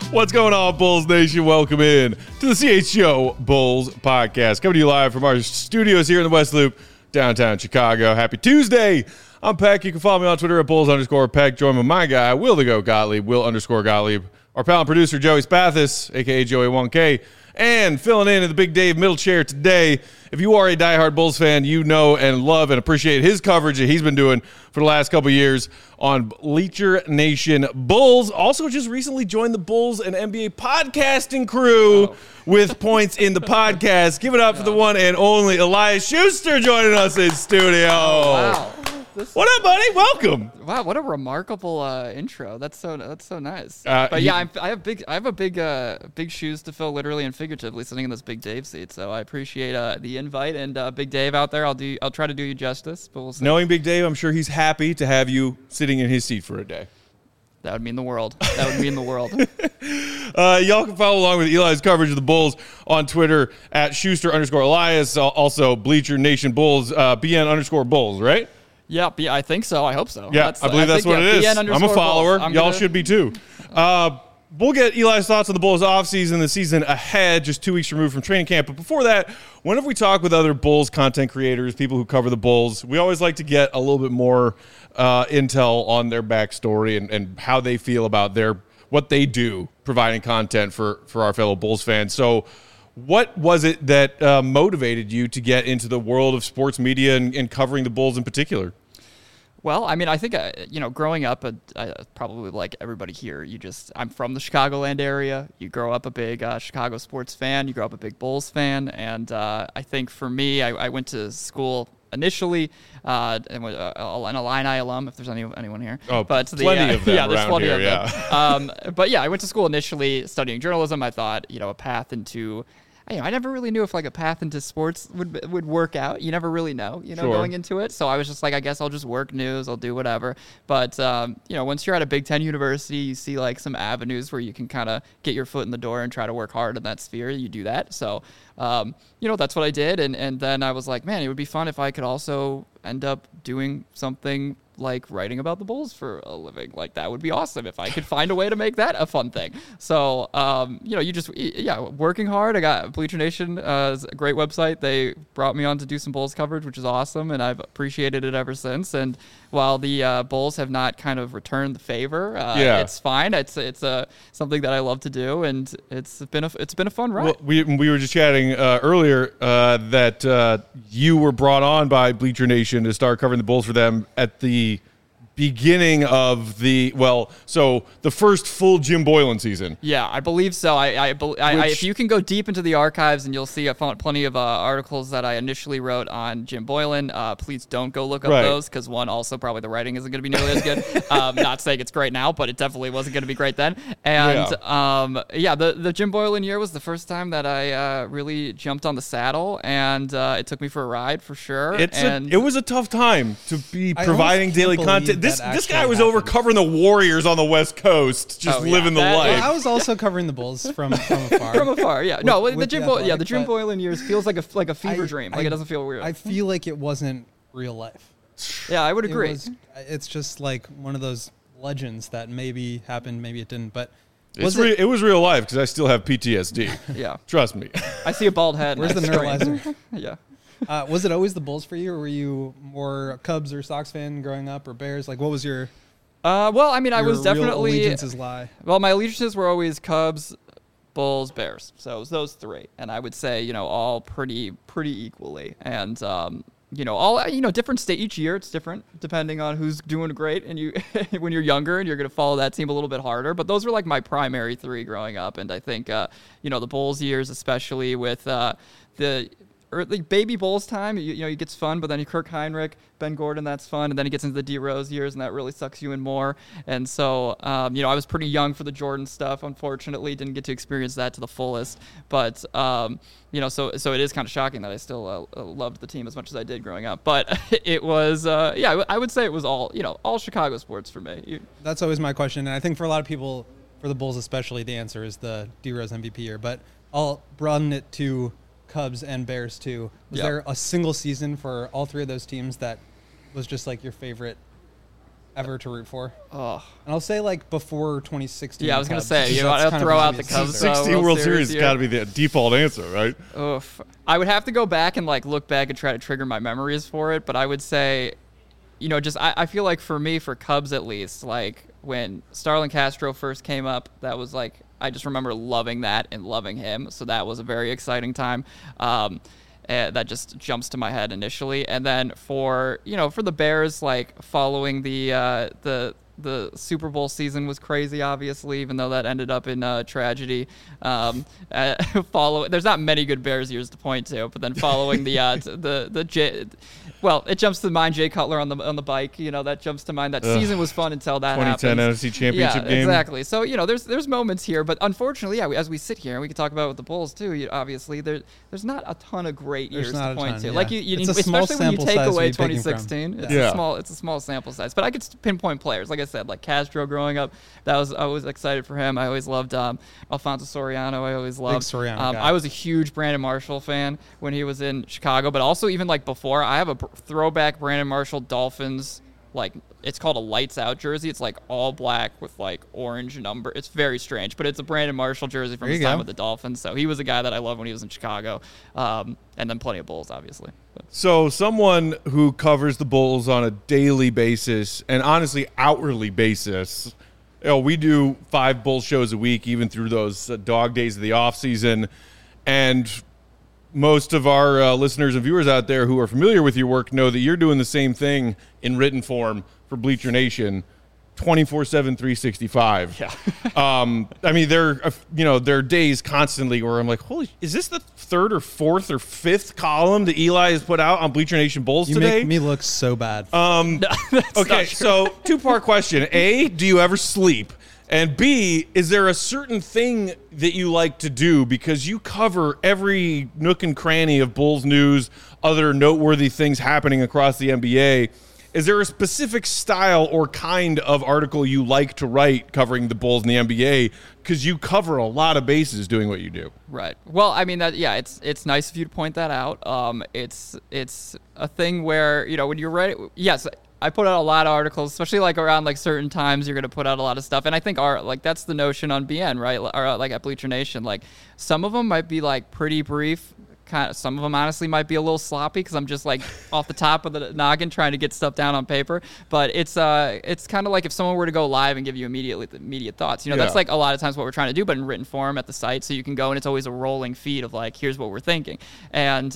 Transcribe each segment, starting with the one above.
What's going on, Bulls Nation? Welcome in to the CHGO Bulls podcast. Coming to you live from our studios here in the West Loop, downtown Chicago. Happy Tuesday. I'm Peck. You can follow me on Twitter at Bulls_Peck. Join with my guy, Will the Go Gottlieb, Will_Gottlieb. Our pal and producer, Joey Spathis, a.k.a. Joey1K. And filling in the Big Dave middle chair today. If you are a diehard Bulls fan, you know and love and appreciate his coverage that he's been doing for the last couple of years on Bleacher Nation Bulls. Also just recently joined the Bulls and NBA podcasting crew with points in the podcast. Give it up for the one and only Elias Schuster joining us in studio. Oh, wow. What up, buddy? Welcome. Wow, what a remarkable intro. That's so nice. But yeah, I have big shoes to fill, literally and figuratively, sitting in this Big Dave seat. So I appreciate the invite, and Big Dave out there. I'll try to do you justice, but we'll see. Knowing Big Dave, I'm sure he's happy to have you sitting in his seat for a day. That would mean the world. That would mean the world. Y'all can follow along with Eli's coverage of the Bulls on Twitter at Schuster_Elias. Also, Bleacher Nation Bulls, BN_Bulls, right? Yeah, I think so. I hope so. Yeah, I believe that's what it is. I'm a follower. Y'all should be too. We'll get Eli's thoughts on the Bulls offseason, the season ahead, just 2 weeks removed from training camp. But before that, whenever we talk with other Bulls content creators, people who cover the Bulls, we always like to get a little bit more intel on their backstory and how they feel about what they do, providing content for our fellow Bulls fans. So what was it that motivated you to get into the world of sports media and covering the Bulls in particular? Well, I mean, I think, growing up, probably like everybody here, I'm from the Chicagoland area. You grow up a big Chicago sports fan. You grow up a big Bulls fan. And I think for me, I went to school initially, and an Illini alum, if there's anyone here. Oh, but plenty of them yeah, there's plenty here, of them. But yeah, I went to school initially studying journalism. I thought, a path into... I never really knew if like a path into sports would work out. You never really know, Sure. going into it. So I was just like, I guess I'll just work news. I'll do whatever. But, once you're at a Big Ten university, you see like some avenues where you can kind of get your foot in the door and try to work hard in that sphere. You do that. So, that's what I did. And then I was like, man, it would be fun if I could also end up doing something like writing about the Bulls for a living. Like that would be awesome if I could find a way to make that a fun thing. So, working hard. I got Bleacher Nation, is a great website. They brought me on to do some Bulls coverage, which is awesome, and I've appreciated it ever since. And while the Bulls have not kind of returned the favor, it's fine. It's something that I love to do, and it's been a fun ride. Well, we were just chatting earlier that you were brought on by Bleacher Nation to start covering the Bulls for them at the beginning of the first full Jim Boylen season. Yeah, I believe so. If you can go deep into the archives, and you'll see I found plenty of articles that I initially wrote on Jim Boylen. Please don't go look up those, because one, also probably the writing isn't going to be nearly as good. Not saying it's great now, but it definitely wasn't going to be great then. And the Jim Boylen year was the first time that I really jumped on the saddle, and it took me for a ride for sure. It was a tough time to be providing daily content. This guy was over covering the Warriors on the West Coast, just living the life. Well, I was also covering the Bulls from afar. From afar, yeah. The Jim Boylen years feels like a fever dream. Like it doesn't feel weird. I feel like it wasn't real life. Yeah, I would agree. It's just like one of those legends that maybe happened, maybe it didn't. But it was real life, because I still have PTSD. Yeah, trust me. I see a bald head. Where's the neuralizer? Yeah. Was it always the Bulls for you, or were you more Cubs or Sox fan growing up, or Bears? Like, what was your? I was definitely allegiances lie. Well, my allegiances were always Cubs, Bulls, Bears. So it was those three, and I would say all pretty equally. And different state each year. It's different depending on who's doing great, and you when you're younger and you're going to follow that team a little bit harder. But those were like my primary three growing up, and I think the Bulls years, especially with the early baby Bulls time, it gets fun, but then you Kirk Heinrich, Ben Gordon, that's fun, and then he gets into the D Rose years, and that really sucks you in more. And so, I was pretty young for the Jordan stuff. Unfortunately, didn't get to experience that to the fullest. But so it is kind of shocking that I still loved the team as much as I did growing up. But it was, I would say it was all Chicago sports for me. That's always my question, and I think for a lot of people, for the Bulls especially, the answer is the D Rose MVP year. But I'll broaden it to Cubs and Bears too. Was there a single season for all three of those teams that was just like your favorite ever to root for. Oh. And I'll say like before 2016. Yeah, I was going to Cubs, say, because you that's want to kind of throw out easy the to Cubs. say. 16 World Series has here. got to be the default answer, right? Oof. I would have to go back and like look back and try to trigger my memories for it, but I would say, just I feel like for me, for Cubs at least, like when Starlin Castro first came up, that was like, I just remember loving that and loving him. So that was a very exciting time. That just jumps to my head initially. And then for the Bears, like following the Super Bowl season was crazy, obviously, even though that ended up in tragedy. There's not many good Bears years to point to, but then following it jumps to mind Jay Cutler on the bike. That jumps to mind. That season was fun until that 2010 happened. NFC Championship game. Exactly. So there's moments here, but unfortunately, as we sit here, and we can talk about it with the Bulls too. Obviously, there's not a ton of great years to point to. Yeah. Like It's a small especially when you sample take size to away be picking from. 2016. Yeah. It's a small sample size, but I could pinpoint players. Like I said, like Castro growing up, I was excited for him. I always loved Alfonso Soriano. I always loved Soriano guy. I was a huge Brandon Marshall fan when he was in Chicago, but also even like before, I have a throwback Brandon Marshall Dolphins, like it's called a lights out jersey. It's like all black with like orange number. It's very strange, but it's a Brandon Marshall jersey from his time with the Dolphins. So he was a guy that I loved when he was in Chicago, and then plenty of Bulls, obviously. So someone who covers the Bulls on a daily basis and honestly hourly basis, we do 5 Bulls shows a week, even through those dog days of the off season, and most of our listeners and viewers out there who are familiar with your work know that you're doing the same thing in written form for Bleacher Nation 24/7, 365. Yeah. I mean, there are days constantly where I'm like, holy, is this the 3rd or 4th or 5th column that Eli has put out on Bleacher Nation Bulls today? You make me look so bad. Okay, so 2-part question. A, do you ever sleep? And B, is there a certain thing that you like to do? Because you cover every nook and cranny of Bulls news, other noteworthy things happening across the NBA. Is there a specific style or kind of article you like to write covering the Bulls in the NBA? Because you cover a lot of bases doing what you do. Right. Well, I mean, it's nice of you to point that out. It's a thing where, when you're ready, yes, I put out a lot of articles, especially like around like certain times you're going to put out a lot of stuff. And I think that's the notion on BN, right? Or like at Bleacher Nation, like some of them might be like pretty brief. Some of them honestly might be a little sloppy because I'm just like off the top of the noggin trying to get stuff down on paper. But it's kind of like if someone were to go live and give you immediate thoughts. That's like a lot of times what we're trying to do, but in written form at the site, so you can go and it's always a rolling feed of like, here's what we're thinking. And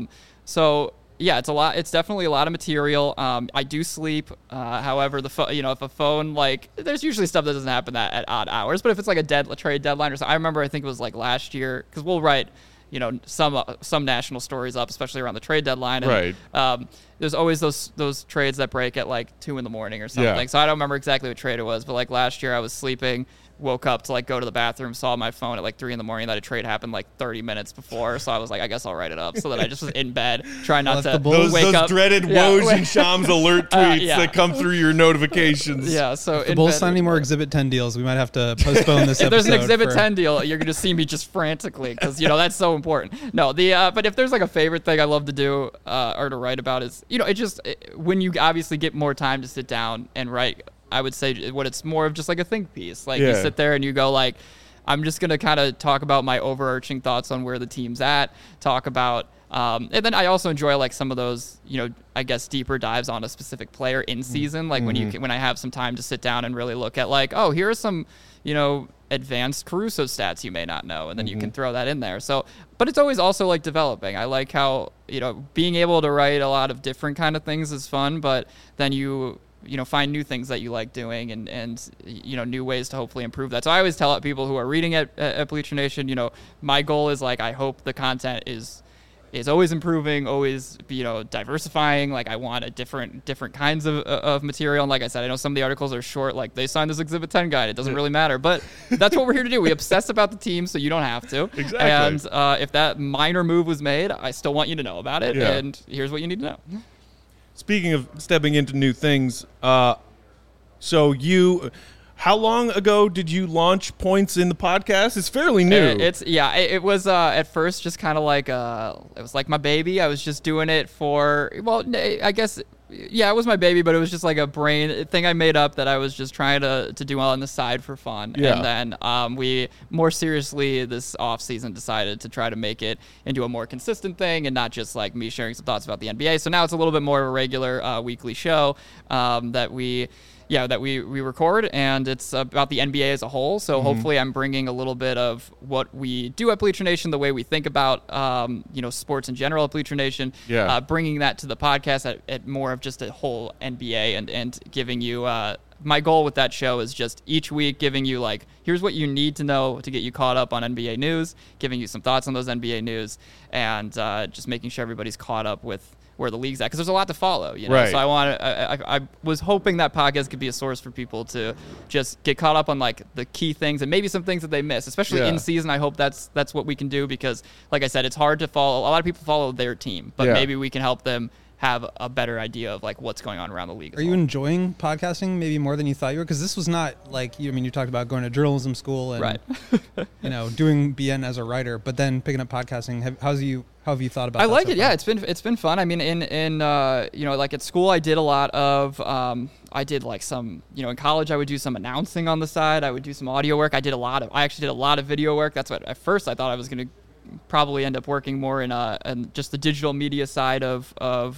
so yeah, it's a lot. It's definitely a lot of material. I do sleep. However, if a phone, like, there's usually stuff that doesn't happen at odd hours. But if it's like a trade deadline or something, I remember I think it was like last year because we'll write, some national stories up, especially around the trade deadline. And, right. There's always those trades that break at like 2 a.m. or something. Yeah. So I don't remember exactly what trade it was, but like last year I was sleeping. Woke up to like go to the bathroom, saw my phone at like 3 a.m. that a trade happened like 30 minutes before. So I was like, I guess I'll write it up. So that I just was in bed, trying not to those wake up. Dreaded Woj and Shams alert tweets that come through your notifications. Yeah. So if the Bulls sign any more Exhibit 10 deals, we might have to postpone this if episode. There's an Exhibit 10 deal, you're going to see me just frantically because, that's so important. No, but if there's like a favorite thing I love to do or to write about is, when you obviously get more time to sit down and write, I would say what it's more of just like a think piece. Like you sit there and you go like, I'm just going to kind of talk about my overarching thoughts on where the team's at, talk about, and then I also enjoy like some of those, I guess deeper dives on a specific player in season. Like when I have some time to sit down and really look at like, oh, here are some, advanced Caruso stats you may not know. And then you can throw that in there. So, but it's always also like developing. I like how, being able to write a lot of different kind of things is fun, but then you find new things that you like doing and new ways to hopefully improve that. So I always tell people who are reading at Bleacher Nation, my goal is like, I hope the content is always improving, always, diversifying. Like I want a different kinds of material. And like I said, I know some of the articles are short, like they signed this Exhibit 10 guide. It doesn't really matter, but that's what we're here to do. We obsess about the team so you don't have to. Exactly. And if that minor move was made, I still want you to know about it. Yeah. And here's what you need to know. Speaking of stepping into new things, so How long ago did you launch Points in the podcast? It's fairly new. It was at first just kind of like it was like my baby. I was just doing it for, well, I guess, yeah, it was my baby, but it was just like a brain thing I made up that I was just trying to do on the side for fun. Yeah. And then we more seriously this off season decided to try to make it into a more consistent thing and not just like me sharing some thoughts about the NBA. So now it's a little bit more of a regular weekly show that we record, and it's about the NBA as a whole. So hopefully I'm bringing a little bit of what we do at Bleacher Nation, the way we think about, sports in general at Bleacher Nation, bringing that to the podcast at more of just a whole NBA and giving you, my goal with that show is just each week giving you like, here's what you need to know to get you caught up on NBA news, giving you some thoughts on those NBA news, and just making sure everybody's caught up with where the league's at, because there's a lot to follow, you know. Right. So I was hoping that podcast could be a source for people to just get caught up on like the key things and maybe some things that they miss, especially in season. I hope that's what we can do, because like I said, it's hard to follow. A lot of people follow their team, but maybe we can help them have a better idea of like what's going on around the league. Are you enjoying podcasting maybe more than you thought you were? Because this was not like, you talked about going to journalism school and doing BN as a writer, but then picking up podcasting. How have you thought about that? I like so it. far? Yeah, it's been fun. I mean, in like at school, I did a lot of I did like some, in college I would do some announcing on the side. I would do some audio work. I actually did a lot of video work. That's what at first I thought I was going to probably end up working more in just the digital media side of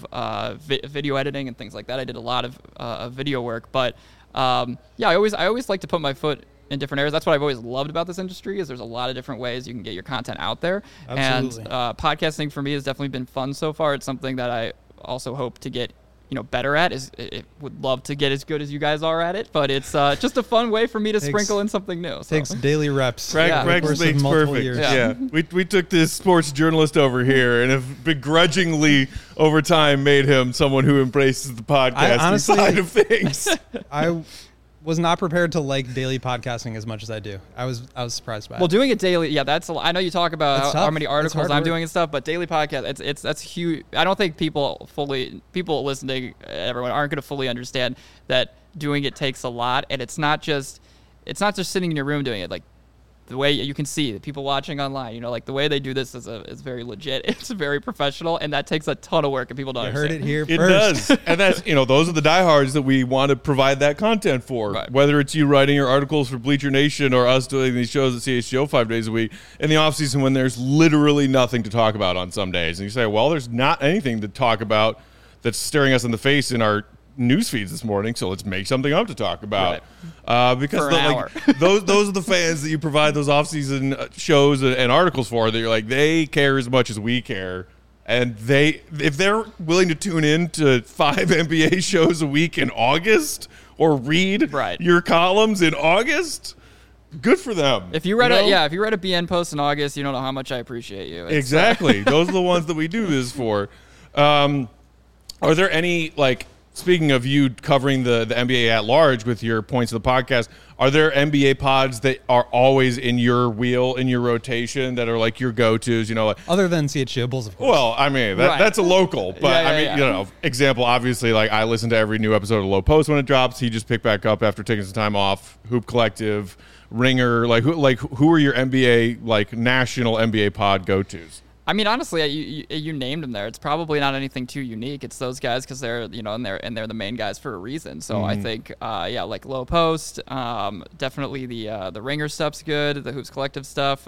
video editing and things like that. I did a lot of video work, but I always like to put my foot in different areas. That's what I've always loved about this industry, is there's a lot of different ways you can get your content out there. Absolutely. And podcasting for me has definitely been fun so far. It's something that I also hope to get better at. Would love to get as good as you guys are at it, but it's just a fun way for me to sprinkle in something new. So. Takes daily reps. Practice makes perfect. Yeah. We took this sports journalist over here and have begrudgingly over time made him someone who embraces the podcasting side of things. I was not prepared to like daily podcasting as much as I do. I was surprised by it. Well, doing it daily, that's a lot. I know you talk about how many articles I'm doing and stuff, but daily podcast, that's huge. I don't think people listening, everyone aren't going to fully understand that doing it takes a lot, and it's not just sitting in your room doing it. Like the way you can see the people watching online, like the way they do this is very legit. It's very professional, and that takes a ton of work, and people don't understand. Heard it here It first. does. And that's, those are the diehards that we want to provide that content for. Right. Whether it's you writing your articles for Bleacher Nation or us doing these shows at CHGO 5 days a week in the off season when there's literally nothing to talk about on some days. And you say, well, there's not anything to talk about that's staring us in the face in our news feeds this morning, so let's make something up to talk about. Because those are the fans that you provide those off-season shows and articles for, that you're like, they care as much as we care, and if they're willing to tune in to 5 NBA shows a week in August or read your columns in August, good for them. If you read a BN post in August, you don't know how much I appreciate you. Exactly. Those are the ones that we do this for. Are there any, speaking of you covering the NBA at large with your points of the podcast, are there NBA pods that are always in your wheel, in your rotation, that are like your go-tos, Other than CHGO Bulls, of course. Well, I mean, that's a local. But, example, obviously, I listen to every new episode of Low Post when it drops. He just picked back up after taking some time off. Hoop Collective, Ringer, who are your NBA, national NBA pod go-tos? I mean, honestly, you named them there. It's probably not anything too unique. It's those guys because they're and they're the main guys for a reason. So I think like Low Post, definitely the Ringer stuff's good. The Hoops Collective stuff.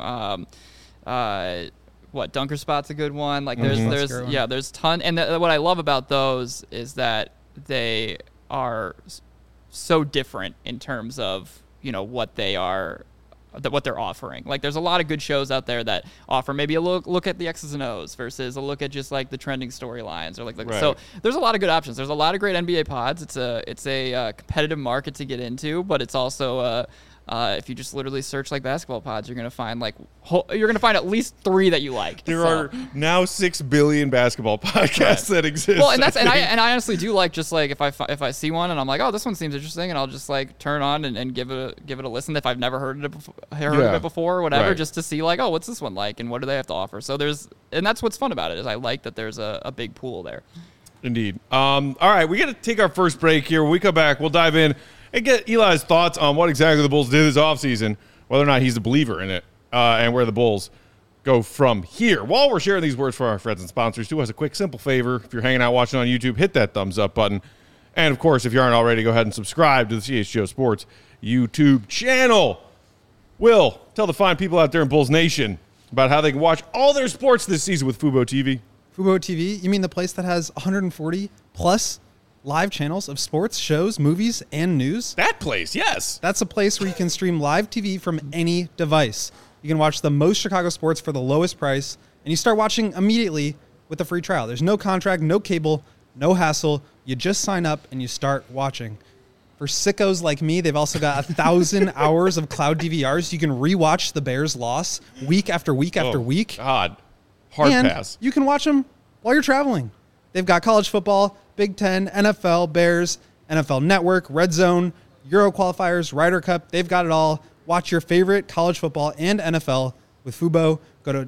Dunker Spot's a good one. There's ton. And what I love about those is that they are so different in terms of what they are. What they're offering. There's a lot of good shows out there that offer maybe a look at the X's and O's versus a look at just the trending storylines or so there's a lot of good options. There's a lot of great NBA pods. It's a competitive market to get into, but it's also if you just literally search basketball pods, you're gonna find at least 3 that you like. There are now 6 billion basketball podcasts that exist. Well, and I honestly do if I see one and I'm like, oh, this one seems interesting, and I'll just turn on and give it a listen if I've never heard of it before or whatever, just to see oh, what's this one like and what do they have to offer. So that's what's fun about it, is I like that there's a big pool there. Indeed. All right, we got to take our first break here. When we come back, we'll dive in and get Eli's thoughts on what exactly the Bulls did this offseason, whether or not he's a believer in it, and where the Bulls go from here. While we're sharing these words for our friends and sponsors, do us a quick, simple favor. If you're hanging out watching on YouTube, hit that thumbs up button. And, of course, if you aren't already, go ahead and subscribe to the CHGO Sports YouTube channel. Will, tell the fine people out there in Bulls Nation about how they can watch all their sports this season with Fubo TV. Fubo TV? You mean the place that has 140 plus live channels of sports, shows, movies, and news? That place, yes. That's a place where you can stream live TV from any device. You can watch the most Chicago sports for the lowest price, and you start watching immediately with a free trial. There's no contract, no cable, no hassle. You just sign up and you start watching. For sickos like me, they've also got 1,000 hours of cloud DVRs. You can rewatch the Bears' loss week after week after week. God, hard and pass. You can watch them while you're traveling. They've got college football, Big Ten, NFL, Bears, NFL Network, Red Zone, Euro qualifiers, Ryder Cup. They've got it all. Watch your favorite college football and NFL with Fubo. Go to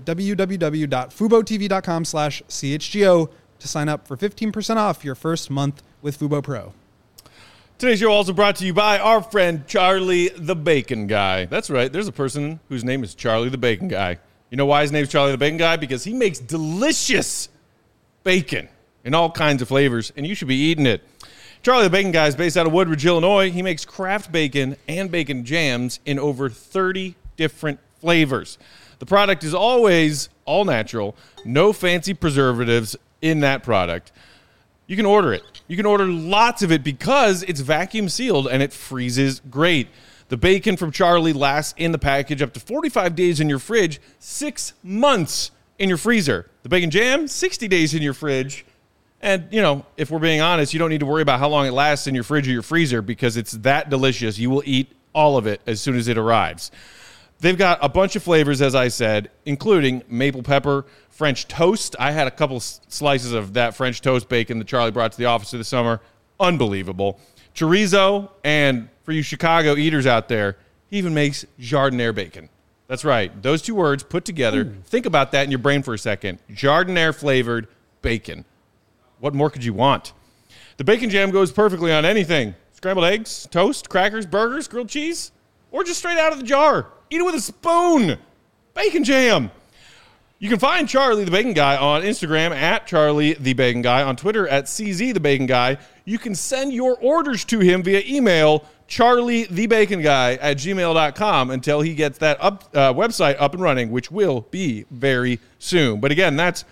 www.fubotv.com/CHGO to sign up for 15% off your first month with Fubo Pro. Today's show also brought to you by our friend Charlie the Bacon Guy. That's right. There's a person whose name is Charlie the Bacon Guy. You know why his name's Charlie the Bacon Guy? Because he makes delicious bacon in all kinds of flavors, and you should be eating it. Charlie the Bacon Guy is based out of Woodridge, Illinois. He makes craft bacon and bacon jams in over 30 different flavors. The product is always all natural, no fancy preservatives in that product. You can order it. You can order lots of it because it's vacuum sealed and it freezes great. The bacon from Charlie lasts in the package up to 45 days in your fridge, 6 months in your freezer. The bacon jam, 60 days in your fridge. And, you know, if we're being honest, you don't need to worry about how long it lasts in your fridge or your freezer because it's that delicious. You will eat all of it as soon as it arrives. They've got a bunch of flavors, as I said, including maple pepper, French toast. I had a couple slices of that French toast bacon that Charlie brought to the office this summer. Unbelievable. Chorizo, and for you Chicago eaters out there, he even makes Jardiniere bacon. That's right. Those two words put together. Think about that in your brain for a second. Jardiniere flavored bacon. What more could you want? The bacon jam goes perfectly on anything. Scrambled eggs, toast, crackers, burgers, grilled cheese, or just straight out of the jar. Eat it with a spoon. Bacon jam. You can find Charlie the Bacon Guy on Instagram at Charlie the Bacon Guy, on Twitter at CZ the Bacon Guy. You can send your orders to him via email, charliethebaconguy@gmail.com, until he gets that website up and running, which will be very soon. But again, that's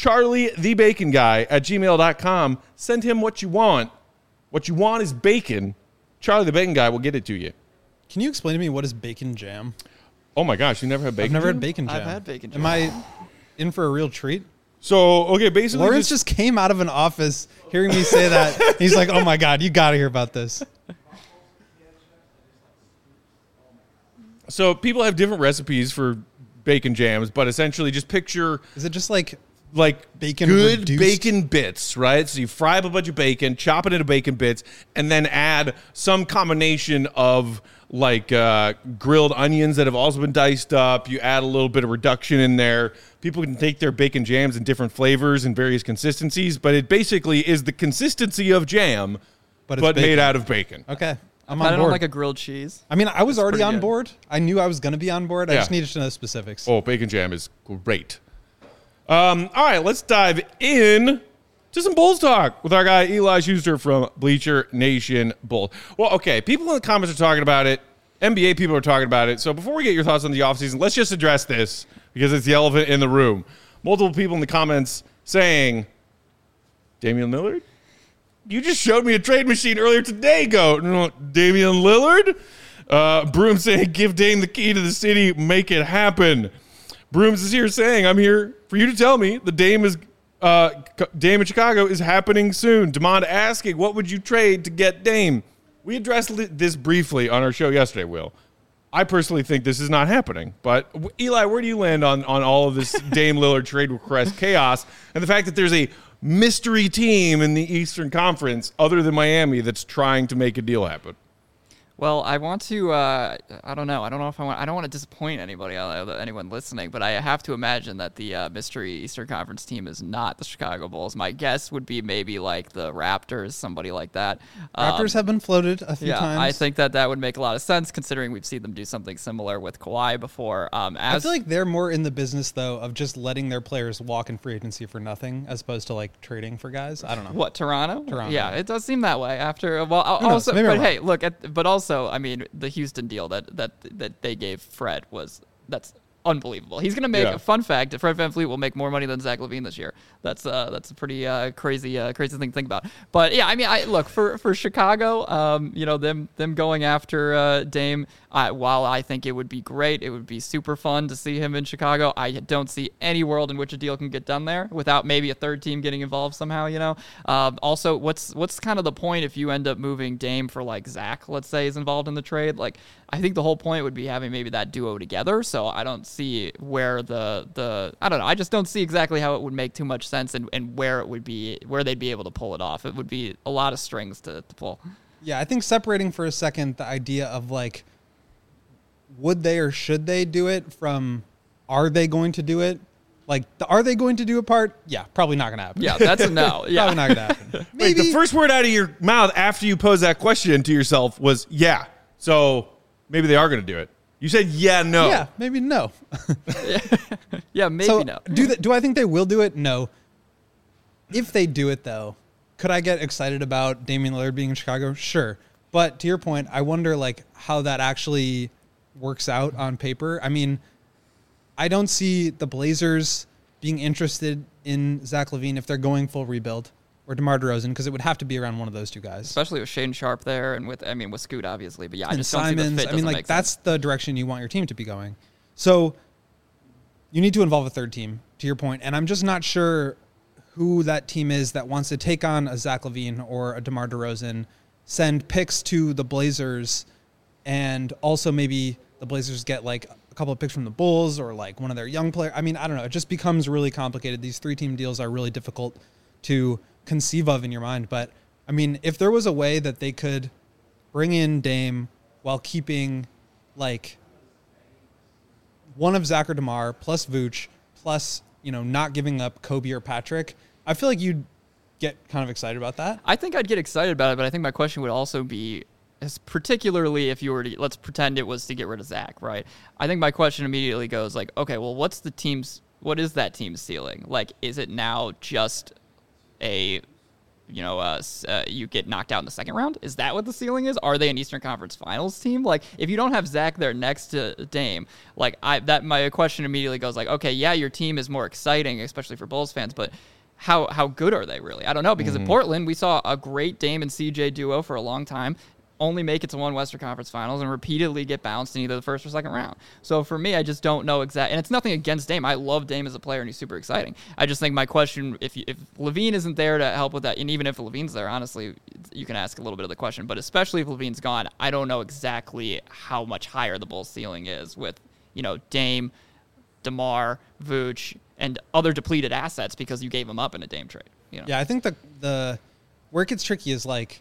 charliethebaconguy@gmail.com. Send him what you want. What you want is bacon. Charlie the Bacon Guy will get it to you. Can you explain to me what is bacon jam? Oh my gosh, you never had bacon I've never jam? had bacon jam. I've had bacon jam. Am I in for a real treat? So, okay, basically Lawrence just came out of an office hearing me say that. He's like, oh my God, you got to hear about this. So people have different recipes for bacon jams, but essentially just picture Is it just like bacon, bacon good reduced? bacon bits, right? So you fry up a bunch of bacon, chop it into bacon bits, and then add some combination of grilled onions that have also been diced up. You add a little bit of reduction in there. People can take their bacon jams in different flavors and various consistencies, but it basically is the consistency of jam, but made out of bacon. Okay. I'm I on don't board. like a grilled cheese. I mean, I was already pretty on good. board. I knew I was going to be on board. I Yeah. just needed to know specifics. Oh, bacon jam is great. All right, let's dive in to some Bulls talk with our guy Eli Schuster from Bleacher Nation Bulls. Well, okay, people in the comments are talking about it. NBA people are talking about it. So before we get your thoughts on the offseason, let's just address this because it's the elephant in the room. Multiple people in the comments saying, Damian Lillard? You just showed me a trade machine earlier today, Goat. Damian Lillard? Broom saying, give Dame the key to the city, make it happen. Brooms is here saying, I'm here for you to tell me the Dame in Chicago is happening soon. Demond asking, what would you trade to get Dame? We addressed this briefly on our show yesterday, Will. I personally think this is not happening. But, Eli, where do you land on all of this Dame Lillard trade request chaos and the fact that there's a mystery team in the Eastern Conference other than Miami that's trying to make a deal happen? Well, I want to. I don't know. I don't know if I don't want to disappoint anyone listening, but I have to imagine that the mystery Eastern Conference team is not the Chicago Bulls. My guess would be maybe like the Raptors, somebody like that. Raptors have been floated a few times. I think that would make a lot of sense considering we've seen them do something similar with Kawhi before. I feel like they're more in the business though of just letting their players walk in free agency for nothing, as opposed to like trading for guys. I don't know. What, Toronto? Toronto. Yeah, it does seem that way. After also, Maybe but I'm hey, look but also, I mean, the Houston deal that they gave Fred that's unbelievable. He's going to make a fun fact. Fred VanVleet will make more money than Zach LaVine this year. That's a pretty crazy thing to think about. But yeah, I mean, look for Chicago. Them going after Dame. While I think it would be great, it would be super fun to see him in Chicago. I don't see any world in which a deal can get done there without maybe a third team getting involved somehow. Also, what's kind of the point if you end up moving Dame for like Zach, let's say, is involved in the trade? Like, I think the whole point would be having maybe that duo together. So I don't see where the I don't know. I just don't see exactly how it would make too much sense and where it would be, where they'd be able to pull it off. It would be a lot of strings to pull. Yeah, I think separating for a second the idea of like, would they or should they do it from are they going to do it? Like, are they going to do a part? Yeah, probably not going to happen. Yeah, that's a no. Yeah. Probably not going to happen. Wait, the first word out of your mouth after you posed that question to yourself was, yeah. So maybe they are going to do it. You said, yeah, no. Yeah, maybe no. Yeah, maybe so no. Do I think they will do it? No. If they do it, though, could I get excited about Damian Lillard being in Chicago? Sure. But to your point, I wonder like how that actually works out on paper. I mean, I don't see the Blazers being interested in Zach LaVine if they're going full rebuild, or DeMar DeRozan, because it would have to be around one of those two guys. Especially with Shane Sharp there and with Scoot, obviously. But yeah, I and just Simons, don't see the fit. I mean, like, that's the direction you want your team to be going. So you need to involve a third team, to your point. And I'm just not sure who that team is that wants to take on a Zach LaVine or a DeMar DeRozan, send picks to the Blazers, and also maybe the Blazers get like a couple of picks from the Bulls or like one of their young players. I mean, I don't know. It just becomes really complicated. These 3-team deals are really difficult to conceive of in your mind. But I mean, if there was a way that they could bring in Dame while keeping like one of Zach or DeMar plus Vooch plus, not giving up Kobe or Patrick, I feel like you'd get kind of excited about that. I think I'd get excited about it, but I think my question would also be, particularly if you were to, let's pretend it was to get rid of Zach, right? I think my question immediately goes like, okay, well, what is that team's ceiling? Like, is it now just you get knocked out in the second round? Is that what the ceiling is? Are they an Eastern Conference Finals team? Like, if you don't have Zach there next to Dame, like my question immediately goes like, okay, yeah, your team is more exciting, especially for Bulls fans, but how good are they really? I don't know, because in Portland we saw a great Dame and CJ duo for a long time, only make it to one Western Conference Finals and repeatedly get bounced in either the first or second round. So for me, I just don't know exactly. And it's nothing against Dame. I love Dame as a player, and he's super exciting. I just think my question, if LaVine isn't there to help with that, and even if LaVine's there, honestly, you can ask a little bit of the question. But especially if LaVine's gone, I don't know exactly how much higher the Bulls' ceiling is with, Dame, DeMar, Vooch, and other depleted assets because you gave them up in a Dame trade. Yeah, I think the where it gets tricky is like,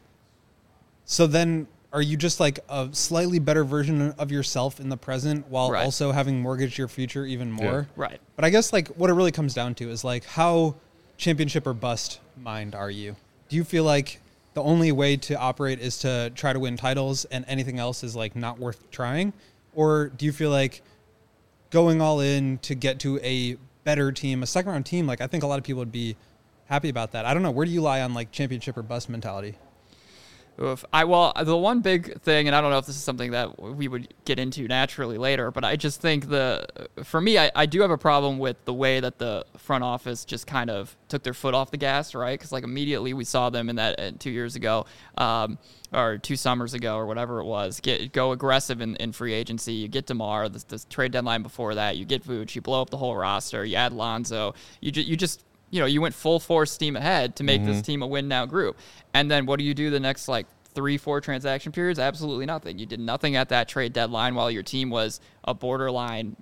so then are you just like a slightly better version of yourself in the present while also having mortgaged your future even more? Yeah. Right. But I guess like what it really comes down to is like, how championship or bust mind are you? Do you feel like the only way to operate is to try to win titles and anything else is like not worth trying? Or do you feel like going all in to get to a better team, a second round team, like I think a lot of people would be happy about that. I don't know. Where do you lie on like championship or bust mentality? The one big thing, and I don't know if this is something that we would get into naturally later, but I just think for me, I do have a problem with the way that the front office just kind of took their foot off the gas, right? Because like immediately we saw them in that 2 years ago, or 2 summers ago, or whatever it was, go aggressive in free agency. You get DeMar, the trade deadline before that, you get Vooch, you blow up the whole roster, you add Lonzo, you went full force steam ahead to make this team a win now group. And then what do you do the next 3-4 transaction periods? Absolutely nothing. You did nothing at that trade deadline while your team was a borderline,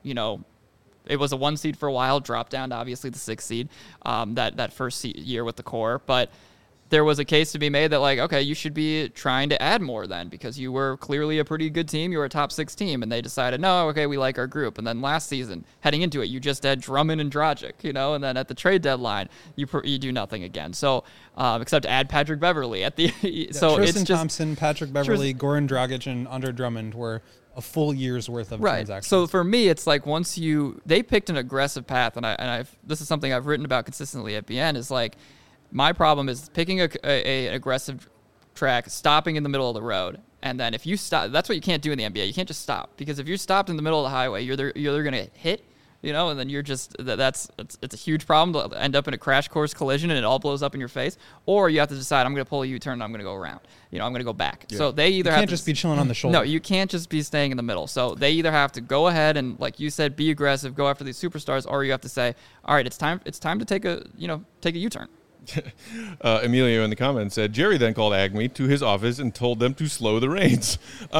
it was a 1 seed for a while, dropped down to obviously the 6 seed that first year with the core. But there was a case to be made that, like, okay, you should be trying to add more then, because you were clearly a pretty good team. You were a top 6 team, and they decided, no, okay, we like our group. And then last season, heading into it, you just had Drummond and Dragic, and then at the trade deadline, you do nothing again. So, except add Patrick Beverley at the so Tristan it's just Thompson, Patrick Beverley, Goran Dragic, and Andre Drummond were a full year's worth of transactions. So for me, it's like they picked an aggressive path, and this is something I've written about consistently at BN, is like, my problem is picking an aggressive track, stopping in the middle of the road, and then if you stop, that's what you can't do in the NBA. You can't just stop, because if you're stopped in the middle of the highway, you're going to hit, and then you're just it's a huge problem to end up in a crash course collision and it all blows up in your face. Or you have to decide, I'm going to pull a U-turn and I'm going to go around. I'm going to go back. Yeah. So they either you can't just be chilling on the shoulder. No, you can't just be staying in the middle. So they either have to go ahead and, like you said, be aggressive, go after these superstars, or you have to say, all right, it's time to take a U-turn. Emilio in the comments said, Jerry then called Acme to his office and told them to slow the reins.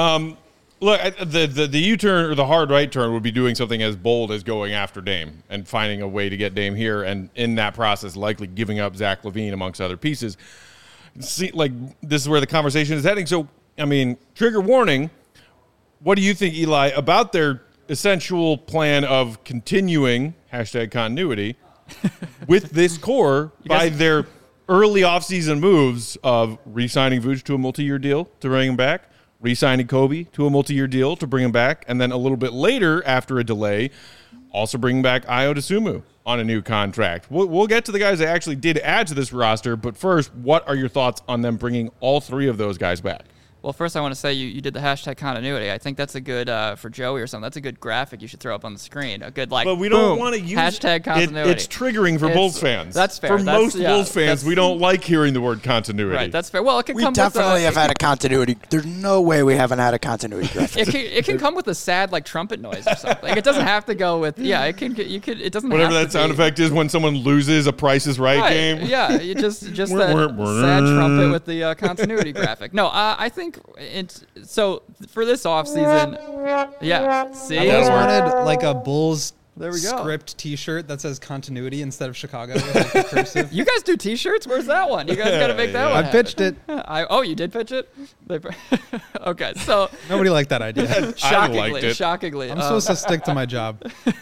Look, the U-turn or the hard right turn would be doing something as bold as going after Dame and finding a way to get Dame here, and in that process likely giving up Zach LaVine amongst other pieces. See, like, this is where the conversation is heading. So, I mean, trigger warning, what do you think, Eli, about their essential plan of continuing #continuity with this core by their early offseason moves of re-signing Vooch to a multi-year deal to bring him back, re-signing Kobe to a multi-year deal to bring him back, and then a little bit later, after a delay, also bringing back Ayo Dosunmu on a new contract. We'll get to the guys that actually did add to this roster, but first, what are your thoughts on them bringing all 3 of those guys back? Well, first I want to say you did the #continuity. I think that's a good, for Joey or something, that's a good graphic you should throw up on the screen. A good, like, but we don't want to use #continuity. It's triggering for Bulls fans. That's fair. For most Bulls fans, we don't like hearing the word continuity. Right, that's fair. Well, it can come definitely with have had a continuity. There's no way we haven't had a continuity graphic. It can come with a sad, like, trumpet noise or something. Like, it doesn't have to go with, it doesn't whatever have that sound effect is when someone loses a Price is Right game. Yeah, you just that sad trumpet with the continuity graphic. No, I think so for this offseason, see? I always wanted, like, a Bulls there we go. Script T-shirt that says continuity instead of Chicago with, like, the cursive. You guys do T-shirts? Where's that one? You guys got to make that one. I pitched it. You did pitch it? Okay, so nobody liked that idea. Shockingly, I'm supposed to stick to my job.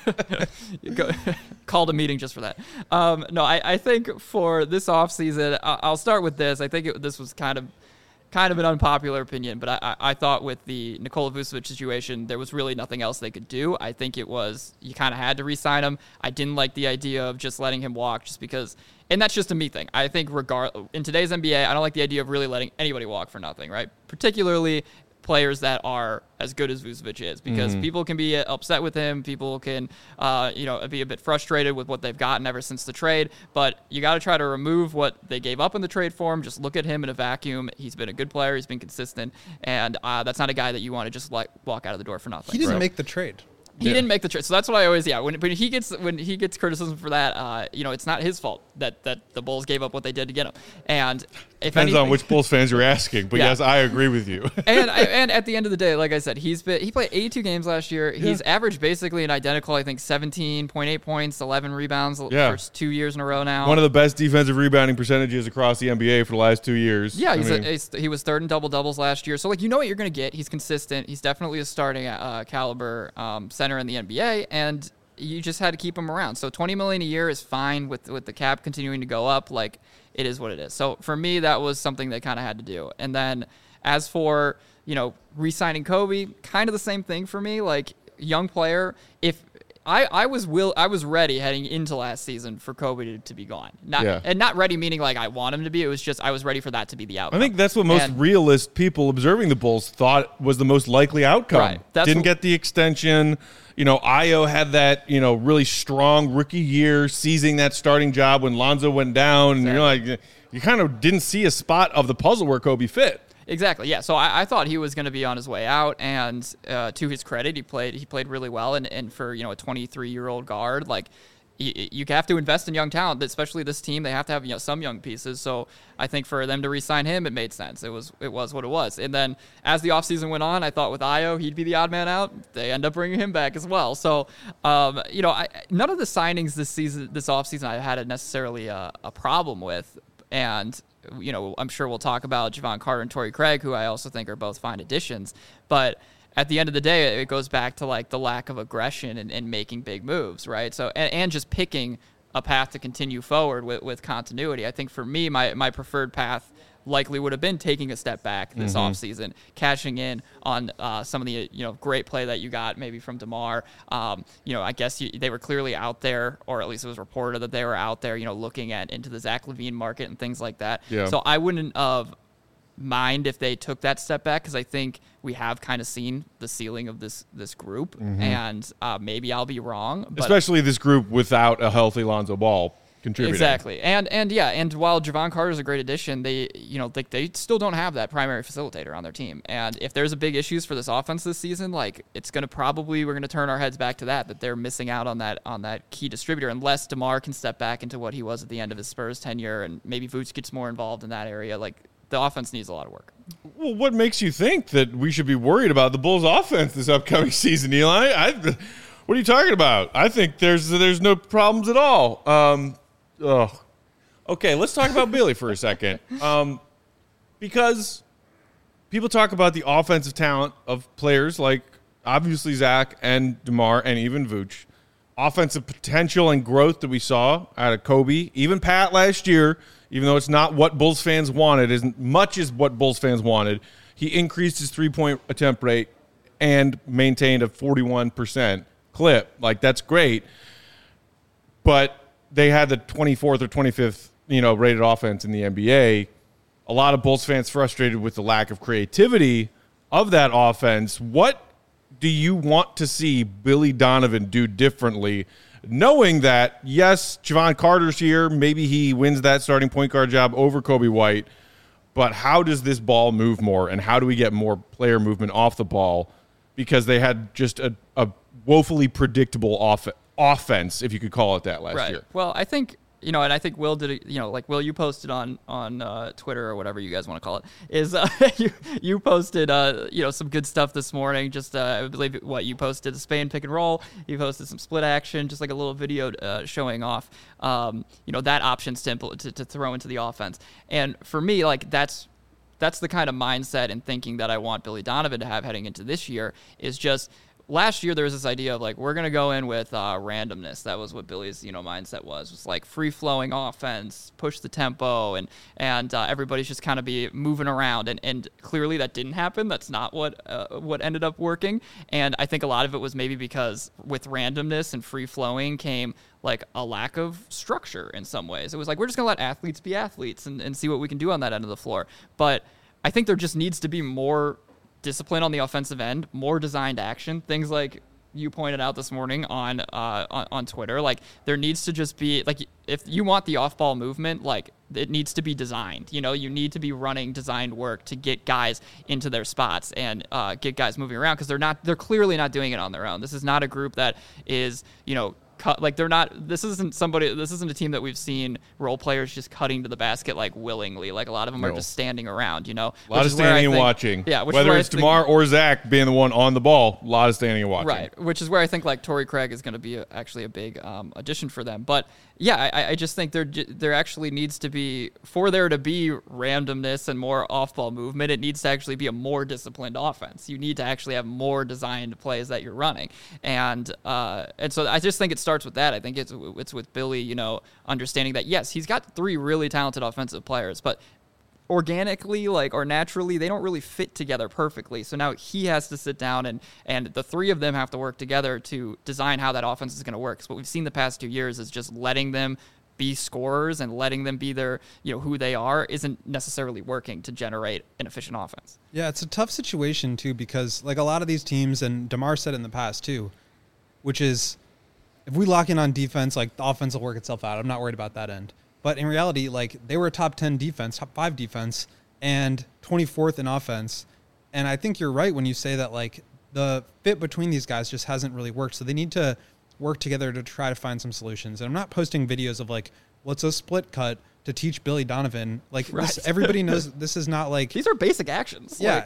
Called a meeting just for that. No, I think for this offseason, I'll start with this. I think this was kind of an unpopular opinion, but I thought with the Nikola Vucevic situation, there was really nothing else they could do. I think it was, you kind of had to re-sign him. I didn't like the idea of just letting him walk just because, and that's just a me thing. I think in today's NBA, I don't like the idea of really letting anybody walk for nothing, right? Particularly players that are as good as Vucevic is, because people can be upset with him. People can, be a bit frustrated with what they've gotten ever since the trade. But you got to try to remove what they gave up in the trade for him. Just look at him in a vacuum. He's been a good player. He's been consistent, and that's not a guy that you want to just walk out of the door for nothing. He didn't make the trade. He didn't make the trade, so that's what I always when he gets criticism for that, it's not his fault that the Bulls gave up what they did to get him. And if depends on which Bulls fans you're asking, but yes, I agree with you. and at the end of the day, like I said, he played 82 games last year. Yeah. He's averaged basically an identical, I think, 17.8 points, 11 rebounds the first 2 years in a row now. One of the best defensive rebounding percentages across the NBA for the last 2 years. Yeah, he was third in double-doubles last year. So, like, you know what you're going to get. He's consistent. He's definitely a starting caliber center in the NBA, and you just had to keep him around. So $20 million a year is fine with the cap continuing to go up. Like, it is what it is. So for me, that was something they kind of had to do. And then as for, re-signing Kobe, kind of the same thing for me. Like, young player, if I was ready heading into last season for Kobe to be gone. And not ready meaning like I want him to be. It was just I was ready for that to be the outcome. I think that's what most realist people observing the Bulls thought was the most likely outcome. Right. Didn't get the extension. Ayo had that, really strong rookie year, seizing that starting job when Lonzo went down. Exactly. And you're like, you kind of didn't see a spot of the puzzle where Kobe fit. Exactly. Yeah. So I thought he was going to be on his way out, and to his credit, he played really well. And for a 23-year-old guard, like you have to invest in young talent, especially this team. They have to have some young pieces. So I think for them to re-sign him, it made sense. It was what it was. And then as the offseason went on, I thought with Ayo, he'd be the odd man out. They end up bringing him back as well. So none of the signings this offseason I had necessarily a problem with. And I'm sure we'll talk about Javon Carter and Torrey Craig, who I also think are both fine additions. But at the end of the day, it goes back to like the lack of aggression and making big moves, right? So and just picking a path to continue forward with continuity. I think for me, my preferred path likely would have been taking a step back this offseason, cashing in on some of the great play that you got maybe from DeMar. I guess they were clearly out there, or at least it was reported that they were out there, looking into the Zach LaVine market and things like that. Yeah. So I wouldn't mind if they took that step back, because I think we have kind of seen the ceiling of this group, and maybe I'll be wrong. But especially this group without a healthy Lonzo Ball contributing. Exactly. And while Javon Carter is a great addition, they still don't have that primary facilitator on their team. And if there's a big issues for this offense this season, like we're going to turn our heads back to that they're missing out on that key distributor, unless DeMar can step back into what he was at the end of his Spurs tenure, and maybe Vooch gets more involved in that area. Like, the offense needs a lot of work. Well, what makes you think that we should be worried about the Bulls offense this upcoming season, Eli? What are you talking about? I think there's no problems at all. Okay, let's talk about Billy for a second. Because people talk about the offensive talent of players like obviously Zach and DeMar and even Vooch. Offensive potential and growth that we saw out of Kobe, even Pat last year, even though it's not what Bulls fans wanted, as much as what Bulls fans wanted, he increased his three-point attempt rate and maintained a 41% clip. Like, that's great. But they had the 24th or 25th, rated offense in the NBA. A lot of Bulls fans frustrated with the lack of creativity of that offense. What do you want to see Billy Donovan do differently, knowing that, yes, Javon Carter's here, maybe he wins that starting point guard job over Kobe White, but how does this ball move more, and how do we get more player movement off the ball? Because they had just a woefully predictable offense, if you could call it that, last year. Well, I think, and I think Will did it, like Will, you posted on Twitter or whatever you guys want to call it, is you posted, some good stuff this morning. Just, I believe you posted the Spain pick and roll. You posted some split action, just like a little video showing off, that options to throw into the offense. And for me, like, that's the kind of mindset and thinking that I want Billy Donovan to have heading into this year. Is just, last year there was this idea of like, we're going to go in with randomness. That was what Billy's mindset was like free-flowing offense, push the tempo, and everybody's just kind of be moving around. And clearly that didn't happen. That's not what ended up working. And I think a lot of it was maybe because with randomness and free-flowing came like a lack of structure in some ways. It was like, we're just going to let athletes be athletes and see what we can do on that end of the floor. But I think there just needs to be more discipline on the offensive end, more designed action, things like you pointed out this morning on Twitter. Like, there needs to just be, like, if you want the off-ball movement, like, it needs to be designed. You need to be running designed work to get guys into their spots and get guys moving around, because they're clearly not doing it on their own. This is not a group that is, like, they're not. This isn't a team that we've seen role players just cutting to the basket like willingly. Like, a lot of them are just standing around. A lot of standing and watching. Yeah, whether it's DeMar or Zach being the one on the ball, a lot of standing and watching. Right, which is where I think like Torrey Craig is going to be actually a big addition for them. But yeah, I just think there actually needs to be, for there to be randomness and more off-ball movement, it needs to actually be a more disciplined offense. You need to actually have more designed plays that you're running, and so I just think it starts with that. I think it's with Billy, understanding that yes, he's got three really talented offensive players, but organically, or naturally, they don't really fit together perfectly. So now he has to sit down and the three of them have to work together to design how that offense is going to work. So what we've seen the past 2 years is just letting them be scorers and letting them be their, who they are, isn't necessarily working to generate an efficient offense. Yeah, it's a tough situation too, because like a lot of these teams, and DeMar said it in the past too, which is, if we lock in on defense, like, the offense will work itself out. I'm not worried about that end. But in reality, like, they were a top 10 defense, top 5 defense, and 24th in offense. And I think you're right when you say that, like, the fit between these guys just hasn't really worked. So they need to work together to try to find some solutions. And I'm not posting videos of, like, what's a split cut to teach Billy Donovan. Like, right. Everybody knows this is not, like... These are basic actions. Yeah.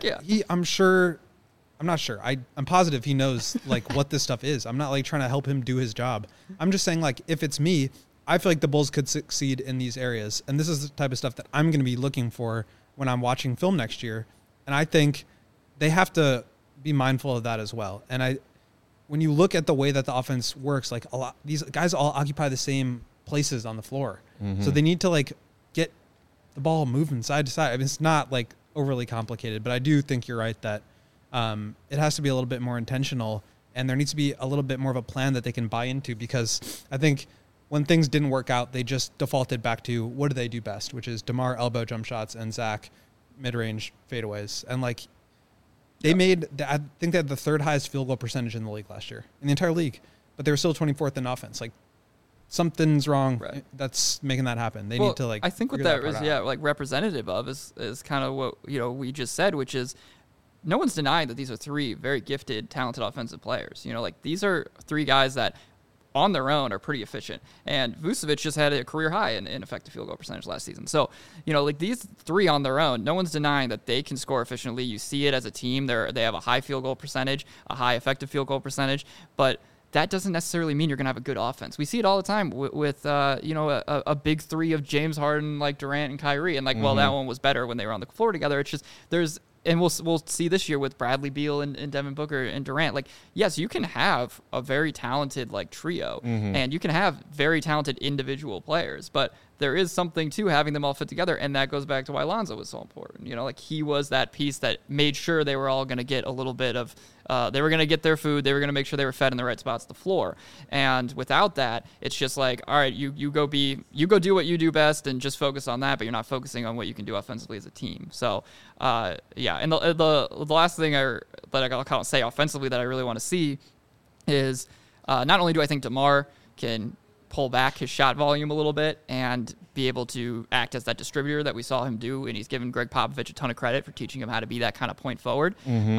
I'm not sure. I'm positive he knows, like, what this stuff is. I'm not, like, trying to help him do his job. I'm just saying, like, if it's me, I feel like the Bulls could succeed in these areas. And this is the type of stuff that I'm going to be looking for when I'm watching film next year. And I think they have to be mindful of that as well. And when you look at the way that the offense works, like these guys all occupy the same places on the floor. Mm-hmm. So they need to like get the ball moving side to side. I mean, it's not like overly complicated, but I do think you're right that it has to be a little bit more intentional, and there needs to be a little bit more of a plan that they can buy into, because I think when things didn't work out, they just defaulted back to what do they do best, which is DeMar elbow jump shots and Zach mid-range fadeaways. And like I think they had the third highest field goal percentage in the league last year, in the entire league, but they were still 24th in offense. Like something's wrong that's making that happen. They need to like. I think what that is like representative of is kind of what we just said, which is no one's denying that these are three very gifted, talented offensive players. Like these are three guys that on their own are pretty efficient. And Vucevic just had a career high in effective field goal percentage last season. So, like these three on their own, no one's denying that they can score efficiently. You see it as a team. They have a high field goal percentage, a high effective field goal percentage, but that doesn't necessarily mean you're going to have a good offense. We see it all the time with a big three of James Harden, like Durant and Kyrie. And like, well, that one was better when they were on the floor together. It's just and we'll see this year with Bradley Beal and Devin Booker and Durant. Like, yes, you can have a very talented like trio, and you can have very talented individual players, but there is something to having them all fit together, and that goes back to why Lonzo was so important. Like he was that piece that made sure they were all going to get a little bit of, they were going to get their food, they were going to make sure they were fed in the right spots on the floor. And without that, it's just like, all right, you go do what you do best and just focus on that, but you're not focusing on what you can do offensively as a team. So, and the last thing that I'll kind of say offensively that I really want to see is not only do I think DeMar can pull back his shot volume a little bit and be able to act as that distributor that we saw him do, and he's given Greg Popovich a ton of credit for teaching him how to be that kind of point forward.